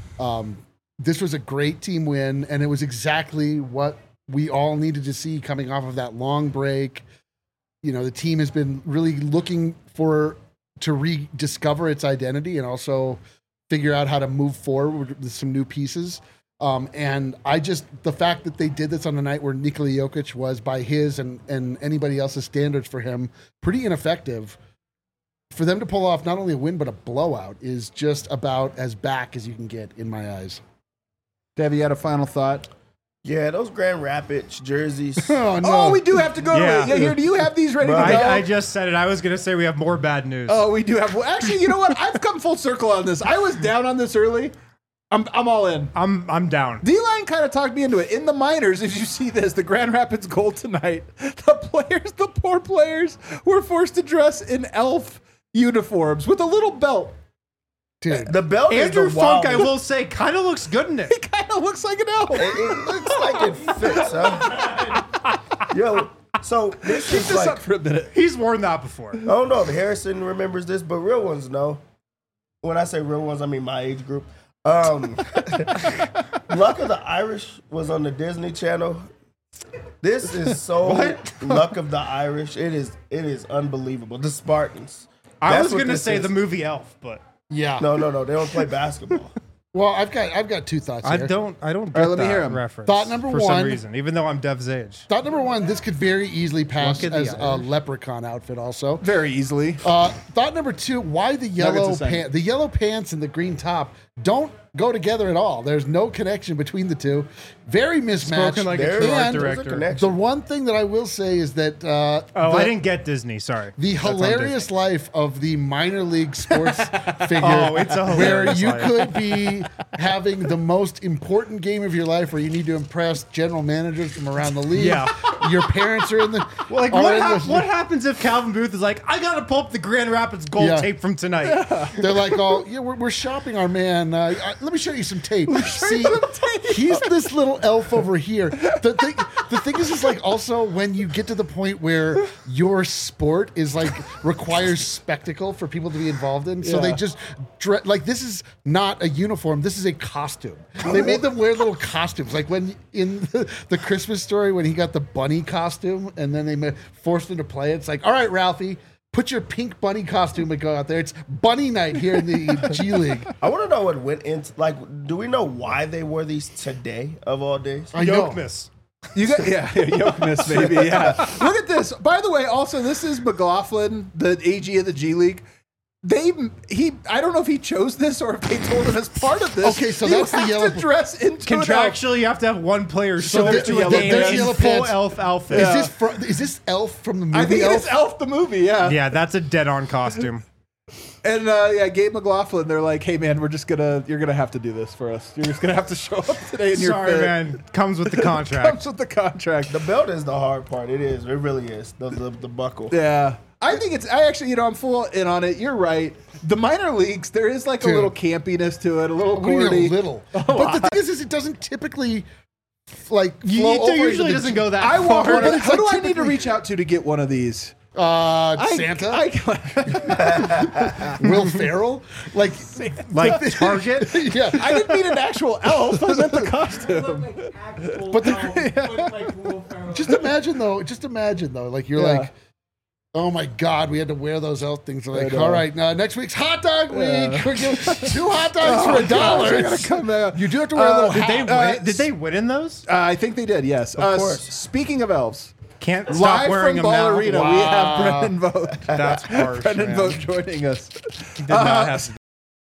This was a great team win, and it was exactly what we all needed to see coming off of that long break. You know, the team has been really looking to rediscover its identity and also figure out how to move forward with some new pieces. And the fact that they did this on a night where Nikola Jokic was, by his and anybody else's standards for him, pretty ineffective, for them to pull off not only a win, but a blowout is just about as back as you can get in my eyes. Dev, you had a final thought? Yeah, those Grand Rapids jerseys. Oh, no. Oh, we do have to go Yeah. to it. Yeah, here, do you have these ready to go? I just said it. I was going to say we have more bad news. Oh, we do have. Well, actually, you know what? I've come full circle on this. I was down on this early. I'm all in. I'm down. D-Line kind of talked me into it. In the minors, if you see this, the Grand Rapids goal tonight, the poor players, were forced to dress in elf uniforms with a little belt. Dude. The belt Andrew is the Funk, I wildest. will say, kind of looks good in it. It kind of looks like an elf. It looks like it fits, huh? Yo, so this Keep is this like, up for a minute. He's worn that before. I don't know if Harrison remembers this, but real ones know. When I say real ones, I mean my age group. Luck of the Irish was on the Disney Channel. This is so Luck of the Irish. It is unbelievable. The Spartans. I That's was what going to this say is. the movie Elf, but Yeah. No, they don't play basketball. Well, I've got two thoughts here. I don't get right, let me that hear 'em. reference. Thought number for one. some reason, even though I'm Dev's age. Thought number one, this could very easily pass Look at the as a Irish. leprechaun outfit also. Very easily. Thought number two, why the yellow the same. pants and the green top don't go together at all. There's no connection between the two. Very mismatched. Spoken like a There true art and There's a director. connection. the one thing that I will say is that I didn't get Disney. Sorry. the That's on hilarious Disney. life of the minor league sports figure, Oh, it's a where hilarious you life. could be having the most important game of your life, where you need to impress general managers from around the league. Yeah. Your parents are in the. Well, like, are what, in the- what happens if Calvin Booth is like, I gotta pull up the Grand Rapids gold Yeah. tape from tonight? They're like, oh, yeah, we're shopping our man. Let me show you some tape. See, he's this little elf over here. The thing is like also when you get to the point where your sport is like requires spectacle for people to be involved in, so they just like this is not a uniform. This is a costume. They made them wear little costumes, like when in the Christmas Story when he got the bunny costume, and then they forced him to play it. It's like, all right, Ralphie. Put your pink bunny costume and go out there. It's bunny night here in the G League. I want to know what went into. Like, do we know why they wore these today of all days? I know. Yokness. You got Yokness, maybe. Yeah. Look at this. By the way, also this is McLaughlin, the AG of the G League. I don't know if he chose this or if they told him as part of this. Okay, so you that's the have yellow- to dress into an elf. Contractually, you have to have one player show up there's to a yellow- game there's in yellow full pants. elf outfit. Is this Elf from the movie? I think Elf? it's Elf the movie. Yeah. Yeah, that's a dead-on costume. And Gabe McLaughlin, they're like, "Hey man, you're gonna have to do this for us. You're just gonna have to show up today in your Sorry, fit." man. Comes with the contract. Comes with the contract. The belt is the hard part. It is. It really is. The buckle. Yeah. I think I'm full in on it. You're right. The minor leagues, there is like a Dude. little campiness to it, a little What do you mean corny. a little? But the thing is it doesn't typically like flow It over usually into doesn't the, go that I far. want one. but it's Who do like I need to typically- reach out to get one of these? Santa, Will Ferrell, like Like Target. yeah. I didn't mean an actual elf. I meant the costume. Like actual But the- elf, look like Will Ferrell. Just imagine though, like you're Yeah. like, oh my God, we had to wear those elf things. We're like, I know. all right, now next week's hot dog week. We're giving 2 hot dogs for $1. They're gonna come out. You do have to wear a little Did they hat. win? Did they win in those? I think they did. Yes. Of course. Speaking of elves, Can't stop live wearing from them Ball now. Arena, we have Brendan Vogt. That's harsh, Brendan man. Vogt joining us. Did not have to.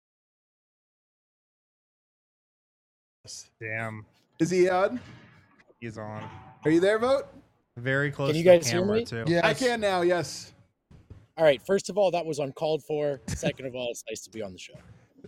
Damn, Is he on? he's on. Are you there, Vogt? Very close Can you to the guys hear camera, me? too. Yes. I can now. Yes. All right. First of all, that was uncalled for. Second of all, it's nice to be on the show.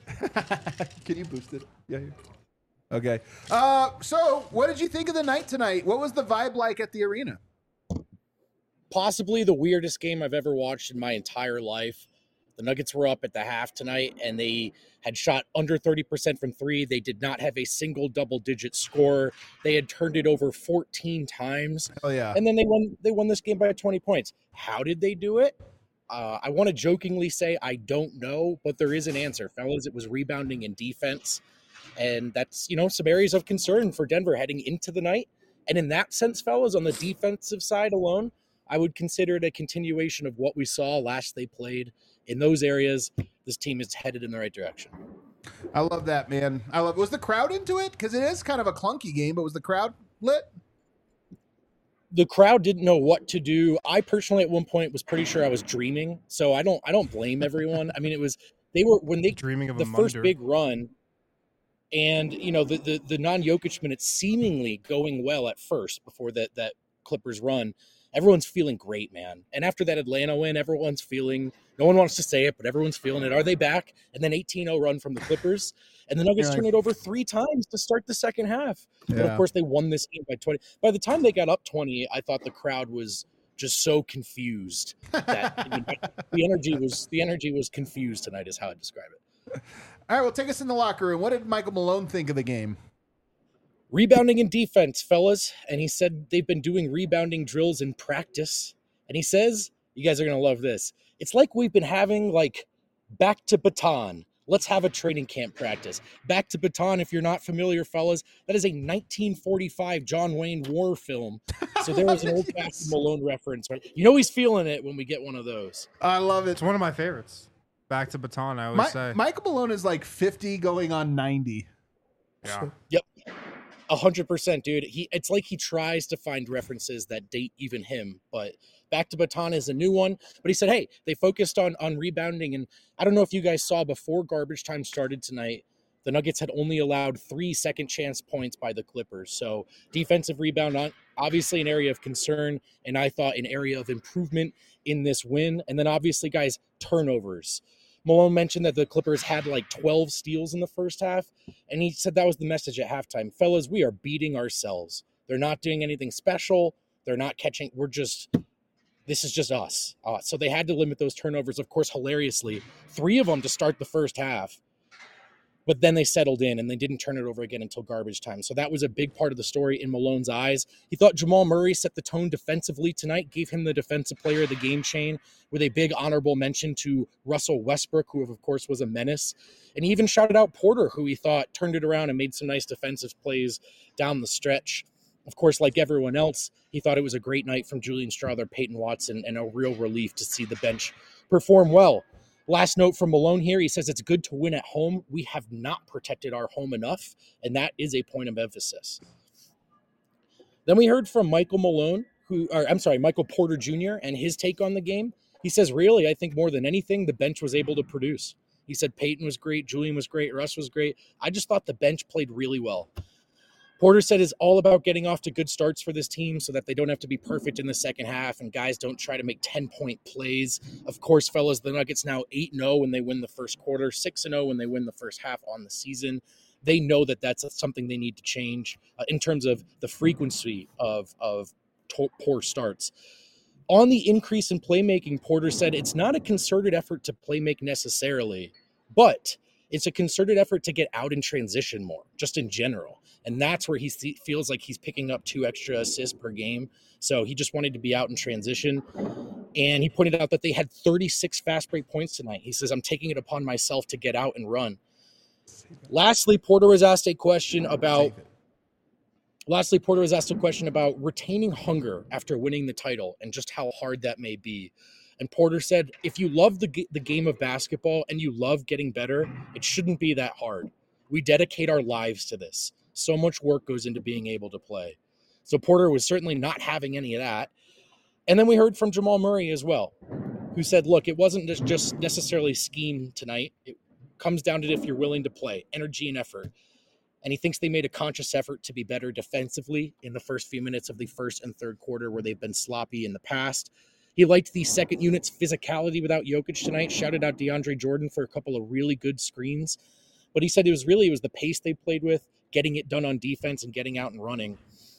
Can you boost it? Yeah. Okay. So, what did you think of the night tonight? What was the vibe like at the arena? Possibly the weirdest game I've ever watched in my entire life. The Nuggets were up at the half tonight, and they had shot under 30% from three. They did not have a single double-digit score. They had turned it over 14 times, Oh yeah. and then they won this game by 20 points. How did they do it? I want to jokingly say I don't know, but there is an answer, fellas. It was rebounding and defense. And that's, some areas of concern for Denver heading into the night. And in that sense, fellas, on the defensive side alone, I would consider it a continuation of what we saw last they played. In those areas, this team is headed in the right direction. I love that, man. Was the crowd into it? Because it is kind of a clunky game, but was the crowd lit? The crowd didn't know what to do. I personally, at one point, was pretty sure I was dreaming. So I don't blame everyone. I mean, when they Dreaming of the a first Munder. big run, and the non-Jokic minutes seemingly going well at first before that Clippers run. Everyone's feeling great, man. And after that Atlanta win, everyone's feeling. No one wants to say it, but everyone's feeling it. Are they back? And then 18-0 run from the Clippers, and the Nuggets Yeah. turn it over 3 times to start the second half. But Yeah. of course, they won this game by 20. By the time they got up 20, I thought the crowd was just so confused that the energy was confused tonight. Is how I describe it. All right, well, take us in the locker room. What did Michael Malone think of the game? Rebounding and defense, fellas. And he said they've been doing rebounding drills in practice. And he says, you guys are going to love this. It's like we've been having back to baton. Let's have a training camp practice. Back to baton, if you're not familiar, fellas, that is a 1945 John Wayne war film. So there was an old fashioned Malone reference. Right? He's feeling it when we get one of those. I love it. It's one of my favorites. Back to baton, I always say. Michael Malone is like 50 going on 90. Yeah. Yep. 100%, dude. It's like he tries to find references that date even him, but Back to Baton is a new one. But he said, hey, they focused on rebounding. And I don't know if you guys saw before garbage time started tonight, the Nuggets had only allowed 3 second chance points by the Clippers. So defensive rebound, obviously an area of concern, and I thought an area of improvement in this win. And then obviously, guys, turnovers. Malone mentioned that the Clippers had like 12 steals in the first half, and he said that was the message at halftime. Fellas, we are beating ourselves. They're not doing anything special. They're not catching. This is just us. So they had to limit those turnovers. Of course, hilariously, 3 of them to start the first half. But then they settled in and they didn't turn it over again until garbage time. So that was a big part of the story in Malone's eyes. He thought Jamal Murray set the tone defensively tonight, gave him the defensive player of the game chain with a big honorable mention to Russell Westbrook, who of course was a menace. And he even shouted out Porter, who he thought turned it around and made some nice defensive plays down the stretch. Of course, like everyone else, he thought it was a great night from Julian Strawther, Peyton Watson, and a real relief to see the bench perform well. Last note from Malone here, he says it's good to win at home. We have not protected our home enough, and that is a point of emphasis. Then we heard from Michael Porter Jr. and his take on the game. He says, really, I think more than anything, the bench was able to produce. He said Peyton was great, Julian was great, Russ was great. I just thought the bench played really well. Porter said it's all about getting off to good starts for this team so that they don't have to be perfect in the second half and guys don't try to make 10-point plays. Of course, fellas, the Nuggets now 8-0 when they win the first quarter, 6-0 when they win the first half on the season. They know that that's something they need to change in terms of the frequency of poor starts. On the increase in playmaking, Porter said it's not a concerted effort to playmake necessarily, but it's a concerted effort to get out in transition more, just in general. And that's where he feels like he's picking up 2 extra assists per game. So he just wanted to be out in transition. And he pointed out that they had 36 fast break points tonight. He says, I'm taking it upon myself to get out and run. Lastly, Porter was asked a question about retaining hunger after winning the title and just how hard that may be. And Porter said, if you love the game of basketball and you love getting better, it shouldn't be that hard. We dedicate our lives to this. So much work goes into being able to play. So Porter was certainly not having any of that. And then we heard from Jamal Murray as well, who said, look, it wasn't just necessarily scheme tonight. It comes down to if you're willing to play, energy and effort. And he thinks they made a conscious effort to be better defensively in the first few minutes of the first and third quarter where they've been sloppy in the past. He liked the second unit's physicality without Jokic tonight, shouted out DeAndre Jordan for a couple of really good screens. But he said it was the pace they played with, getting it done on defense and getting out and running.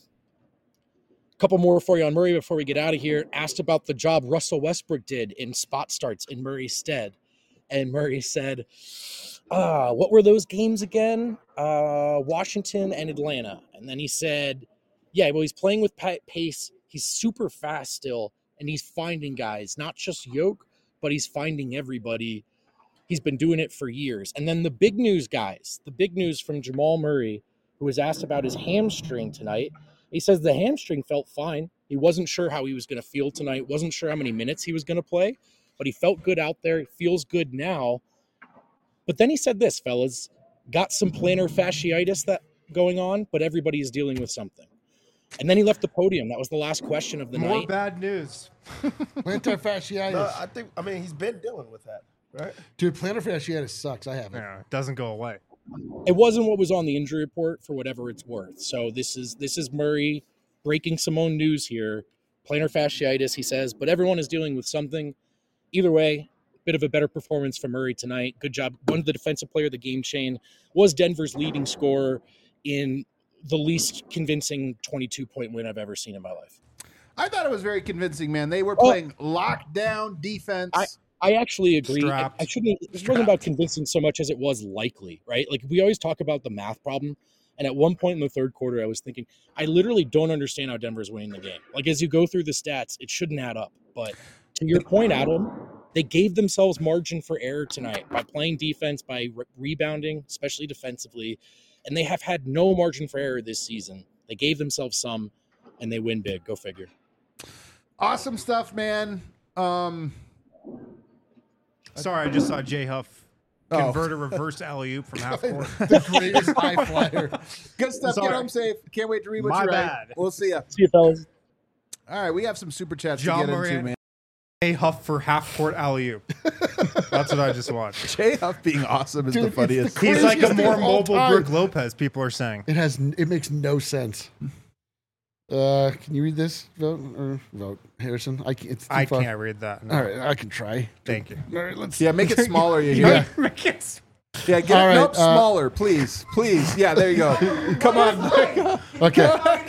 A couple more for you on Murray before we get out of here. Asked about the job Russell Westbrook did in spot starts in Murray's stead. And Murray said, what were those games again? Washington and Atlanta. And then he said, yeah, well, he's playing with pace. He's super fast still. And he's finding guys, not just Yoke, but he's finding everybody. He's been doing it for years. And then the big news, guys, the big news from Jamal Murray, who was asked about his hamstring tonight. He says the hamstring felt fine. He wasn't sure how he was going to feel tonight, wasn't sure how many minutes he was going to play, but he felt good out there. He feels good now. But then he said this, fellas, got some plantar fasciitis that going on, but everybody is dealing with something. And then he left the podium. That was the last question of the night. More bad news. Plantar fasciitis. No, he's been dealing with that, right? Dude, plantar fasciitis sucks. I have it. Yeah, it doesn't go away. It wasn't what was on the injury report for whatever it's worth. So this is Murray breaking some own news here. Plantar fasciitis, he says, but everyone is dealing with something. Either way, bit of a better performance from Murray tonight. Good job. One of the defensive player of the game chain, was Denver's leading scorer in the least convincing 22-point win I've ever seen in my life. I thought it was very convincing, man. They were playing lockdown defense. I actually agree. Strapped. It wasn't about convincing so much as it was likely, right? Like we always talk about the math problem. And at one point in the third quarter, I was thinking, I literally don't understand how Denver's winning the game. Like as you go through the stats, it shouldn't add up. But to your point, Adam, they gave themselves margin for error tonight by playing defense, by rebounding, especially defensively. And they have had no margin for error this season. They gave themselves some, and they win big. Go figure. Awesome stuff, man. Sorry, I just saw Jay Huff convert a reverse alley-oop from half court. The greatest high flyer. Good stuff. Sorry. Get home safe. Can't wait to read what My you write. bad. We'll see ya. See you, fellas. All right, we have some super chats John to get Moran. into, man. J. Huff for half court alley-oop. That's what I just watched. Jay Huff being awesome is Dude, the it's funniest. the He's like a craziest thing more of all mobile time. Brook Lopez, people are saying. It makes no sense. Can you read this? Vote, Harrison. It's too I far. can't read that. No. All right, I can try. Thank you. All right, let's. Yeah, make it smaller. You hear? Yeah, get All it right, nope, smaller, please. Yeah, there you go. Come on. Okay.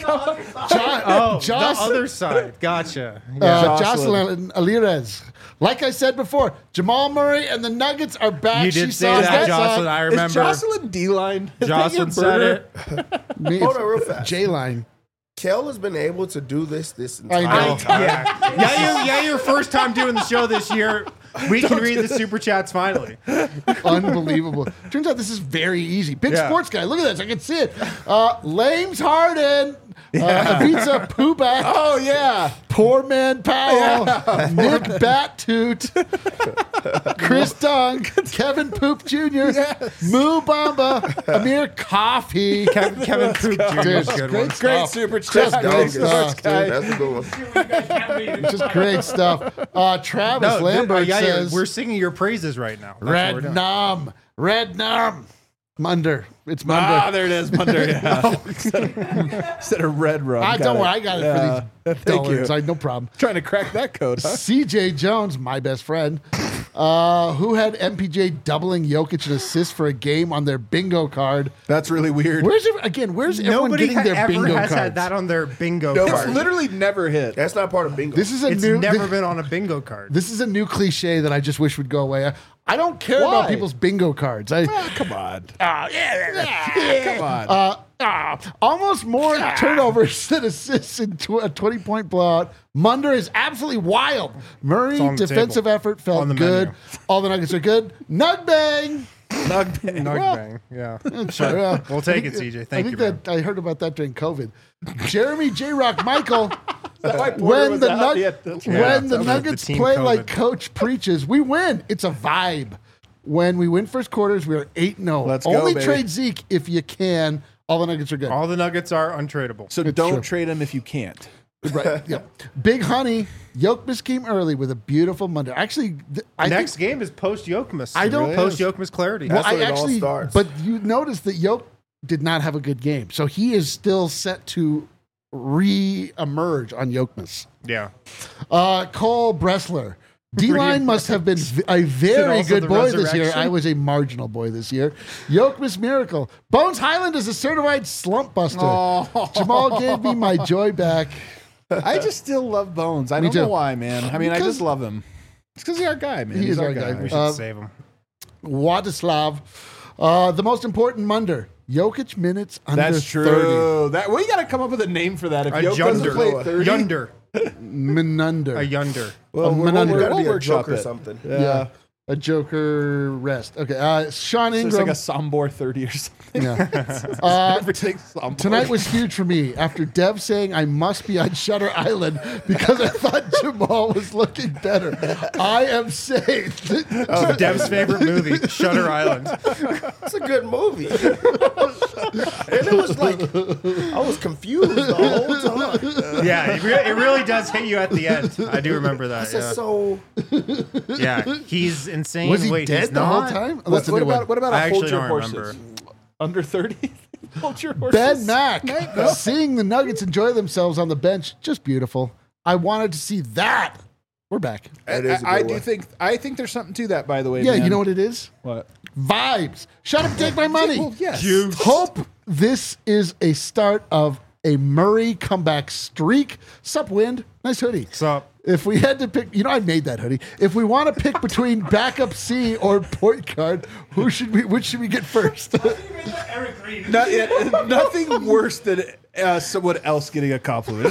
Oh, the other side. Gotcha. Yeah. Jocelyn Alirez. Like I said before, Jamal Murray and the Nuggets are back. You She did say saw that, Jocelyn. I remember. Is Jocelyn D-line? Jocelyn said it. Hold on real fast. J-line. Kel has been able to do this I entire know. time. Yeah, your first time doing the show this year. We can read the super chats finally. Unbelievable. Turns out this is very easy. Big Yeah. sports guy. Look at this. I can see it. Lames Harden. Ivica Puback. Oh yeah. Poor Man Powell. Nick Battoot. Chris Dung. Kevin Poop Jr. Moo Bamba. Amir Coffee. Kevin Poop Jr. is a good one. Great super chat. Just Great great super stuff, chat. That's a good one. Just great stuff. Travis Lambert says, we're singing your praises right now. That's what we're Red doing. Numb. Red Numb. Munder. It's Munder. Ah, there it is, Munder. Yeah. Instead of red rum. Don't worry. I got it for these Thank you. dollars. No problem. Trying to crack that code, huh? CJ Jones, my best friend, who had MPJ doubling Jokic in assists for a game on their bingo card. That's really weird. Where's everyone Nobody getting their ever bingo has cards? had that on their bingo It's card. literally never hit. That's not part of bingo. This is a It's new. never been on a bingo card. This is a new cliche that I just wish would go away. I don't care about Why? people's bingo cards. Come on. Come on. Almost more turnovers than assists in a 20-point blowout. Munder is absolutely wild. Murray on the defensive table. effort felt On the good. menu. All the Nuggets are good. Nug bang. Nug bang. Yeah. Sure, well, We'll take it, CJ. Thank you, that I heard about that during COVID. Jeremy J. Rock Michael. Porter when was the, out? Yeah, that's right. when the that was Nuggets the team play COVID. like Coach preaches, we win. It's a vibe. When we win first quarters, we are 8-0. Let's go, Only baby. trade Zeke if you can. All the Nuggets are good. All the Nuggets are untradeable. So It's don't true. trade him if you can't. Right. Yeah. Big Honey. Jokic came early with a beautiful Monday. Actually, I Next think, game is post Yokmas. I don't- post Yokmas clarity. well, That's when I it all actually, starts. but you notice that Jokic did not have a good game, so he is still set to re-emerge on Jokic. Yeah. Cole Bressler. D-line must have been a very also good the boy this year. resurrection? I was a marginal boy this year. Jokic miracle. Bones Highland is a certified slump buster. Jamal gave me my joy back. I just still love Bones. I Me don't know too. why, man. I mean, I Because- just love him. It's because he's our guy, man. He He's is our guy. We should save him. Wadislav. The most important Munder. Jokic minutes under That's 30. true. We got to come up with a name for that. If A Jokic doesn't play Yunder. 30, Yunder. Minunder. A Yunder. well, Menunder. Gotta be we'll a workshop joke or it. something. Yeah. A Joker rest. Okay. Sean It's Ingram. like a Sombor 30 or something. yeah. Everything's Sombor. Tonight was huge for me after Dev saying I must be on Shutter Island because I thought Jamal was looking better. I am saved. Oh, Dev's favorite movie, Shutter Island. It's a good movie. And it was like, I was confused the whole time. Yeah, it really does hit you at the end. I do remember that. It's just so. Yeah, he's insane. Was he Wait, dead he's the whole not? time? Oh, What, that's a what new about one. what about I a hold actually your don't horses? remember. Under 30? Hold your horses. Ben Mack. Seeing the Nuggets enjoy themselves on the bench, just beautiful. I wanted to see that. We're back. That is a I good do one. think there's something to that, by the way. Yeah, man. you know what it is? What? Vibes. Shut up, take my money. Well, yes. Hope this is a start of a Murray comeback streak. Sup, Wind? Nice hoodie. Sup? If we had to pick, I made that hoodie. If we want to pick between backup C or point guard, which should we get first? Eric Green. Nothing worse than someone else getting a compliment.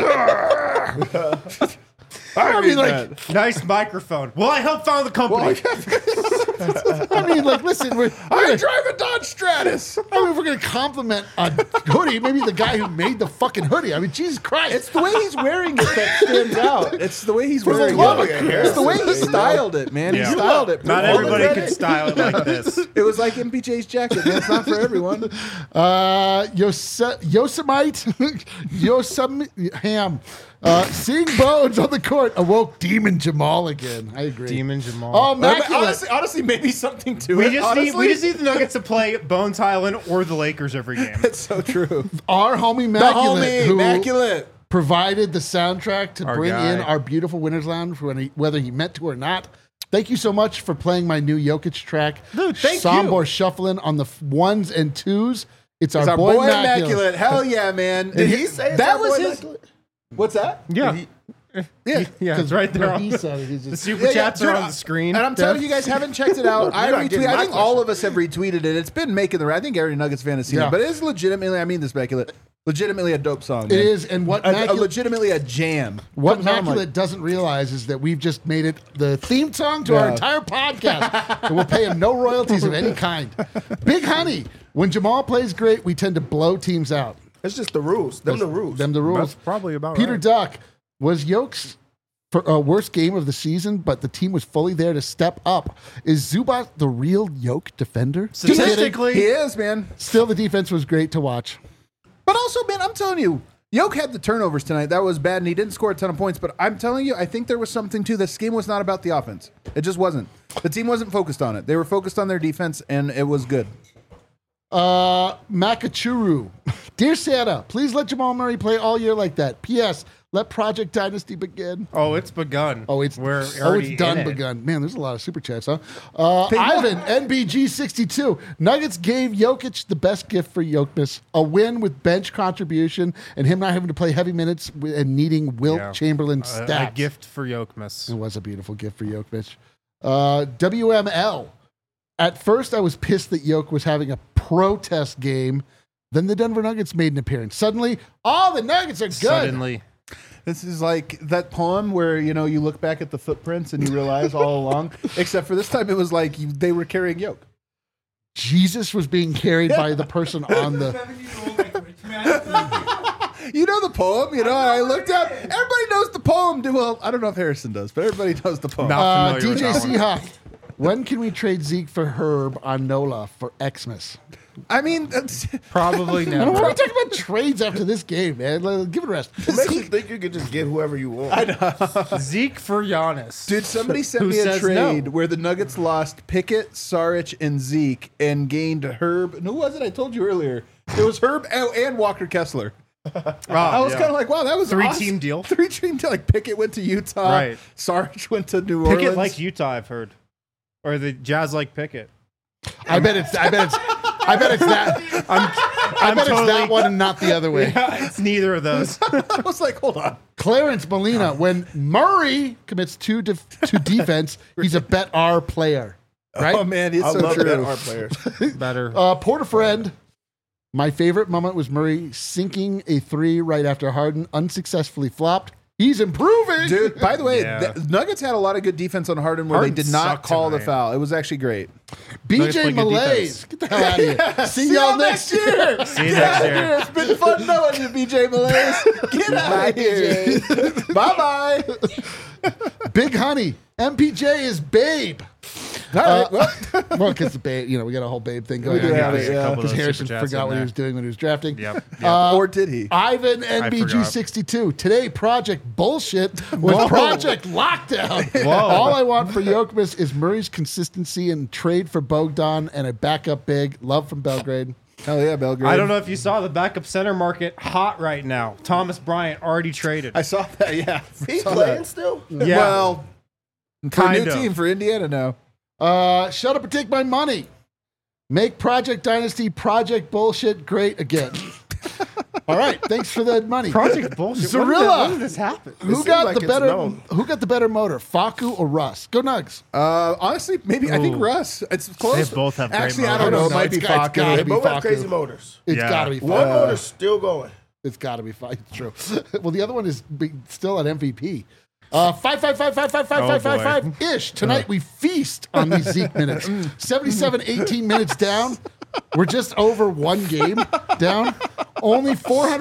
I mean, like, Nice microphone. Well, I helped found the company. listen, I drive a Dodge about Stratus? I mean, if we're gonna compliment a hoodie, maybe the guy who made the fucking hoodie. I mean, Jesus Christ! It's the way he's wearing it that stands out. It's the way he's For the wearing love it. of It's the way he styled it, man. Yeah. He styled it. Not All the everybody credit. can style it like this. It was like MPJ's jacket, man. It's not for everyone. Yosemite Ham. Seeing Bones on the court awoke Demon Jamal again. I agree. Demon Jamal. Oh, immaculate. Honestly, maybe something to we it. just honestly. need the Nuggets to play Bones Highland or the Lakers every game. It's so true. Our homie The Immaculate, homie, who Immaculate. provided the soundtrack to Our bring guy. in our beautiful Winners Lounge, whether he meant to or not. Thank you so much for playing my new Jokic track. Dude, thank Sombor shuffling on the ones and twos. It's It's our, our boy, boy Immaculate. Immaculate. Hell yeah, man. Did he say it's that our was boy his? Immaculate? What's that? Yeah, Yeah. yeah, it's right there. He On said it. He's the just, super chats dude, are on the screen. And I'm telling you guys haven't checked it out. I You're not getting retweeted. I my think all question. of us have retweeted it. It's been making the. I think every Nuggets fan has seen Yeah. it, but it is legitimately. I mean this, Immaculate. Legitimately a dope song. it man. is, and what Immaculate, legitimately a jam. what Comes on, Immaculate doesn't realize is that we've just made it the theme song to our Yeah. entire podcast, and we'll pay him no royalties of any kind. Big Honey, when Jamal plays great, we tend to blow teams out. It's just the rules. Them the rules. Them the rules. That's probably about Peter right. Duck, was Yoke's worst game of the season, but the team was fully there to step up. Is Zubac the real Yoke defender? Just kidding. Statistically, he is, man. Still, the defense was great to watch. But also, man, I'm telling you, Yoke had the turnovers tonight. That was bad, and he didn't score a ton of points. But I'm telling you, I think there was something to this game. Was not about the offense. It just wasn't. The team wasn't focused on it. They were focused on their defense, and it was good. Makachuru. Dear Santa, please let Jamal Murray play all year like that. P.S. Let Project Dynasty begin. oh, it's begun. We're already done in it. begun. Man, there's a lot of super chats, huh? Ivan, NBG62. Nuggets gave Jokic the best gift for Jokic, a win with bench contribution and him not having to play heavy minutes and needing Wilt Yeah. Chamberlain A stats. gift for Yokmas. It was a beautiful gift for Jokic. WML. At first, I was pissed that Jokic was having a protest game. Then the Denver Nuggets made an appearance. Suddenly, all the Nuggets are good. Suddenly. This is like that poem where, you know, you look back at the footprints and you realize all along, except for this time it was like they were carrying Yoke. Jesus was being carried by the person on the. 7-year-old language, man. You know the poem, you know, and I looked up. Everybody knows the poem. Well, I don't know if Harrison does, but everybody knows the poem. Not familiar with DJ that one. Seahawk. When can we trade Zeke for Herb on NOLA for Xmas? I mean, that's, Probably I don't never. want to talk about trades after this game, man. Give it a rest. It makes you think you could just get whoever you want. Zeke for Giannis. dude, somebody sent Who me a says trade no? where the Nuggets lost Pickett, Saric, and Zeke and gained Herb. And who was it? I told you earlier. It was Herb and Walker Kessler. I was kind of like, wow, that was Three-team awesome. deal. 3-team deal. Like Pickett went to Utah. Right. Saric went to New Orleans. Pickett like Utah, I've heard. Or the Jazz like Pickett. I bet it's that. I bet it's that one and not the other way. Yeah, it's neither of those. I was like, hold on. Clarence Molina, when Murray commits to defense, he's a bet R player. Right? Oh man, it's I so love that true. our players. Better. Porter friend. My favorite moment was Murray sinking a three right after Harden unsuccessfully flopped. He's improving. Dude, by the way, Yeah. the Nuggets had a lot of good defense on Harden where Harden they did not sucked call the tonight. foul. It was actually great. Nuggets BJ play good Malaise. defense. Get the hell out of here. See y'all next year. See you next year. It's been fun knowing you, BJ Malaise. Get out of here. Bye-bye. Big Honey. MPJ is Babe. All right, well, Well, because the Babe, we got a whole Babe thing going do on. have here. it, yeah. Couple of Because those Harrison super chats forgot in what he there. was doing when he was drafting. Yep. or did he? Ivan forgot. NBG62. Today, Project Bullshit was Project Lockdown. Whoa. All I want for Jokic is Murray's consistency and trade for Bogdan and a backup big. Love from Belgrade. Hell yeah, Belgrade. I don't know if you saw the backup center market hot right now. Thomas Bryant already traded. I saw that, yeah. He Saw playing that. still? Yeah. Well, for a Kind new of. team for Indiana now. Shut up and take my money. Make Project Dynasty Project Bullshit great again. All right, thanks for the money. Project bullshit. Zorilla. When did this happen? Who seems got like the it's better? known. Who got the better motor, Faku or Russ? Go Nugs. Honestly, maybe I think Ooh. Russ. It's close. They both have great Actually, I motors. don't know. It No, might it's be got- it's Faku. gotta They be both have Faku. crazy motors. It's Yeah. got to be One Faku. motor's still going. It's got to be fine. It's true. Well, the other one is still at MVP. 5 ish. Tonight we feast on these Zeke minutes. 77-18 minutes down. We're just over one game down. Only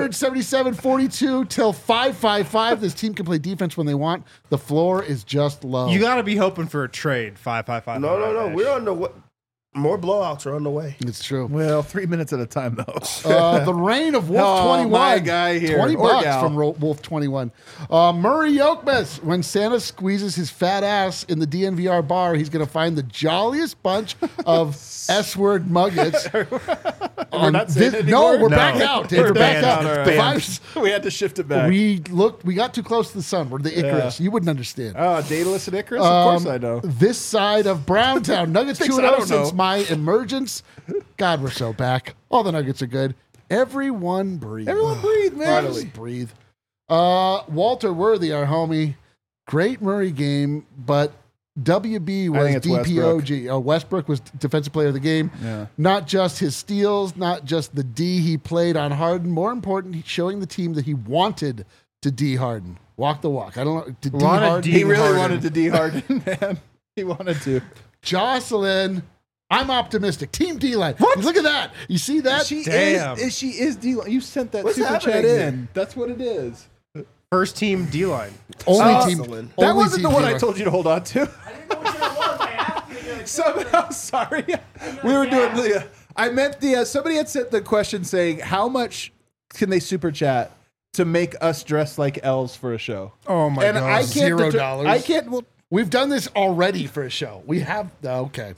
477-42 till 5-5-5. This team can play defense when they want. The floor is just low. You got to be hoping for a trade. 5-5-5. No. We're on the way. More blowouts are on the way. It's true. Well, 3 minutes at a time, though. The reign of Wolf Oh, 21. my guy here. $20 Or gal. from Wolf 21. Murray Yokmes. When Santa squeezes his fat ass in the DNVR bar, he's going to find the jolliest bunch of S-word muggets. We're not saying it anymore? No, we're No. back out. Dave. We're back banned. out. All right. Vibes- We had to shift it back. We got too close to the sun. We're the Icarus. You wouldn't understand. Oh, Daedalus and Icarus? Of course I know. This side of Browntown. Nuggets Things 2-0 I don't since know. my emergence. God, we're so back. All the Nuggets are good. Everyone breathe. Everyone breathe, man. Finally breathe. Walter Worthy, our homie. Great Murray game, but WB was think it's DPOG. Westbrook was Defensive Player of the Game. Yeah. Not just his steals, not just the D he played on Harden. More important, he's showing the team that he wanted to D Harden. Walk the walk. I don't know. To D Wanted Harden. D He really Harden. wanted to D Harden, man. He wanted to. Jocelyn, I'm optimistic. Team D-line. Look at that. You see that? Damn. She is D. You sent that What's super chat happening in. here? That's what it is. First team D-line. Only Oh, team. Jocelyn. That only wasn't team the one I D-line. told you to hold on to. I didn't know which one it was. I asked you. Like, Somehow, sorry. We were doing the. I meant the. Somebody had sent the question saying, "How much can they super chat to make us dress like elves for a show?" Oh my And god. I can't. $0. I can't. Well, We've done this already for a show. We have. Okay.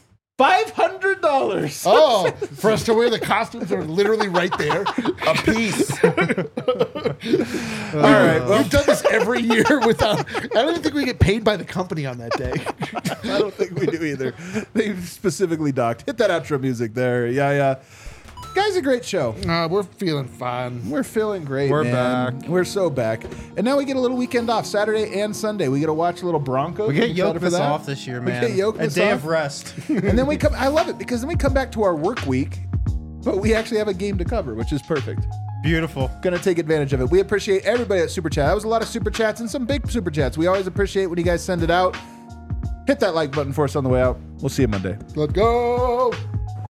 $500. Oh, for us to wear the costumes that are literally right there. A piece. All right. Well, We've done this every year without. I don't even think we get paid by the company on that day. I don't think we do either. They specifically docked. Hit that outro music there. Yeah. Guys, a great show. We're feeling fine. We're feeling great, We're man. back. We're so back. And now we get a little weekend off, Saturday and Sunday. We get to watch a little Broncos. We get I'm excited for Yokmas that. off this year, man. We get Yokmas A day off. of rest. And then we come, I love it because then we come back to our work week, but we actually have a game to cover, which is perfect. Beautiful. Gonna take advantage of it. We appreciate everybody at Super Chat. That was a lot of Super Chats and some big Super Chats. We always appreciate when you guys send it out. Hit that like button for us on the way out. We'll see you Monday. Let's go.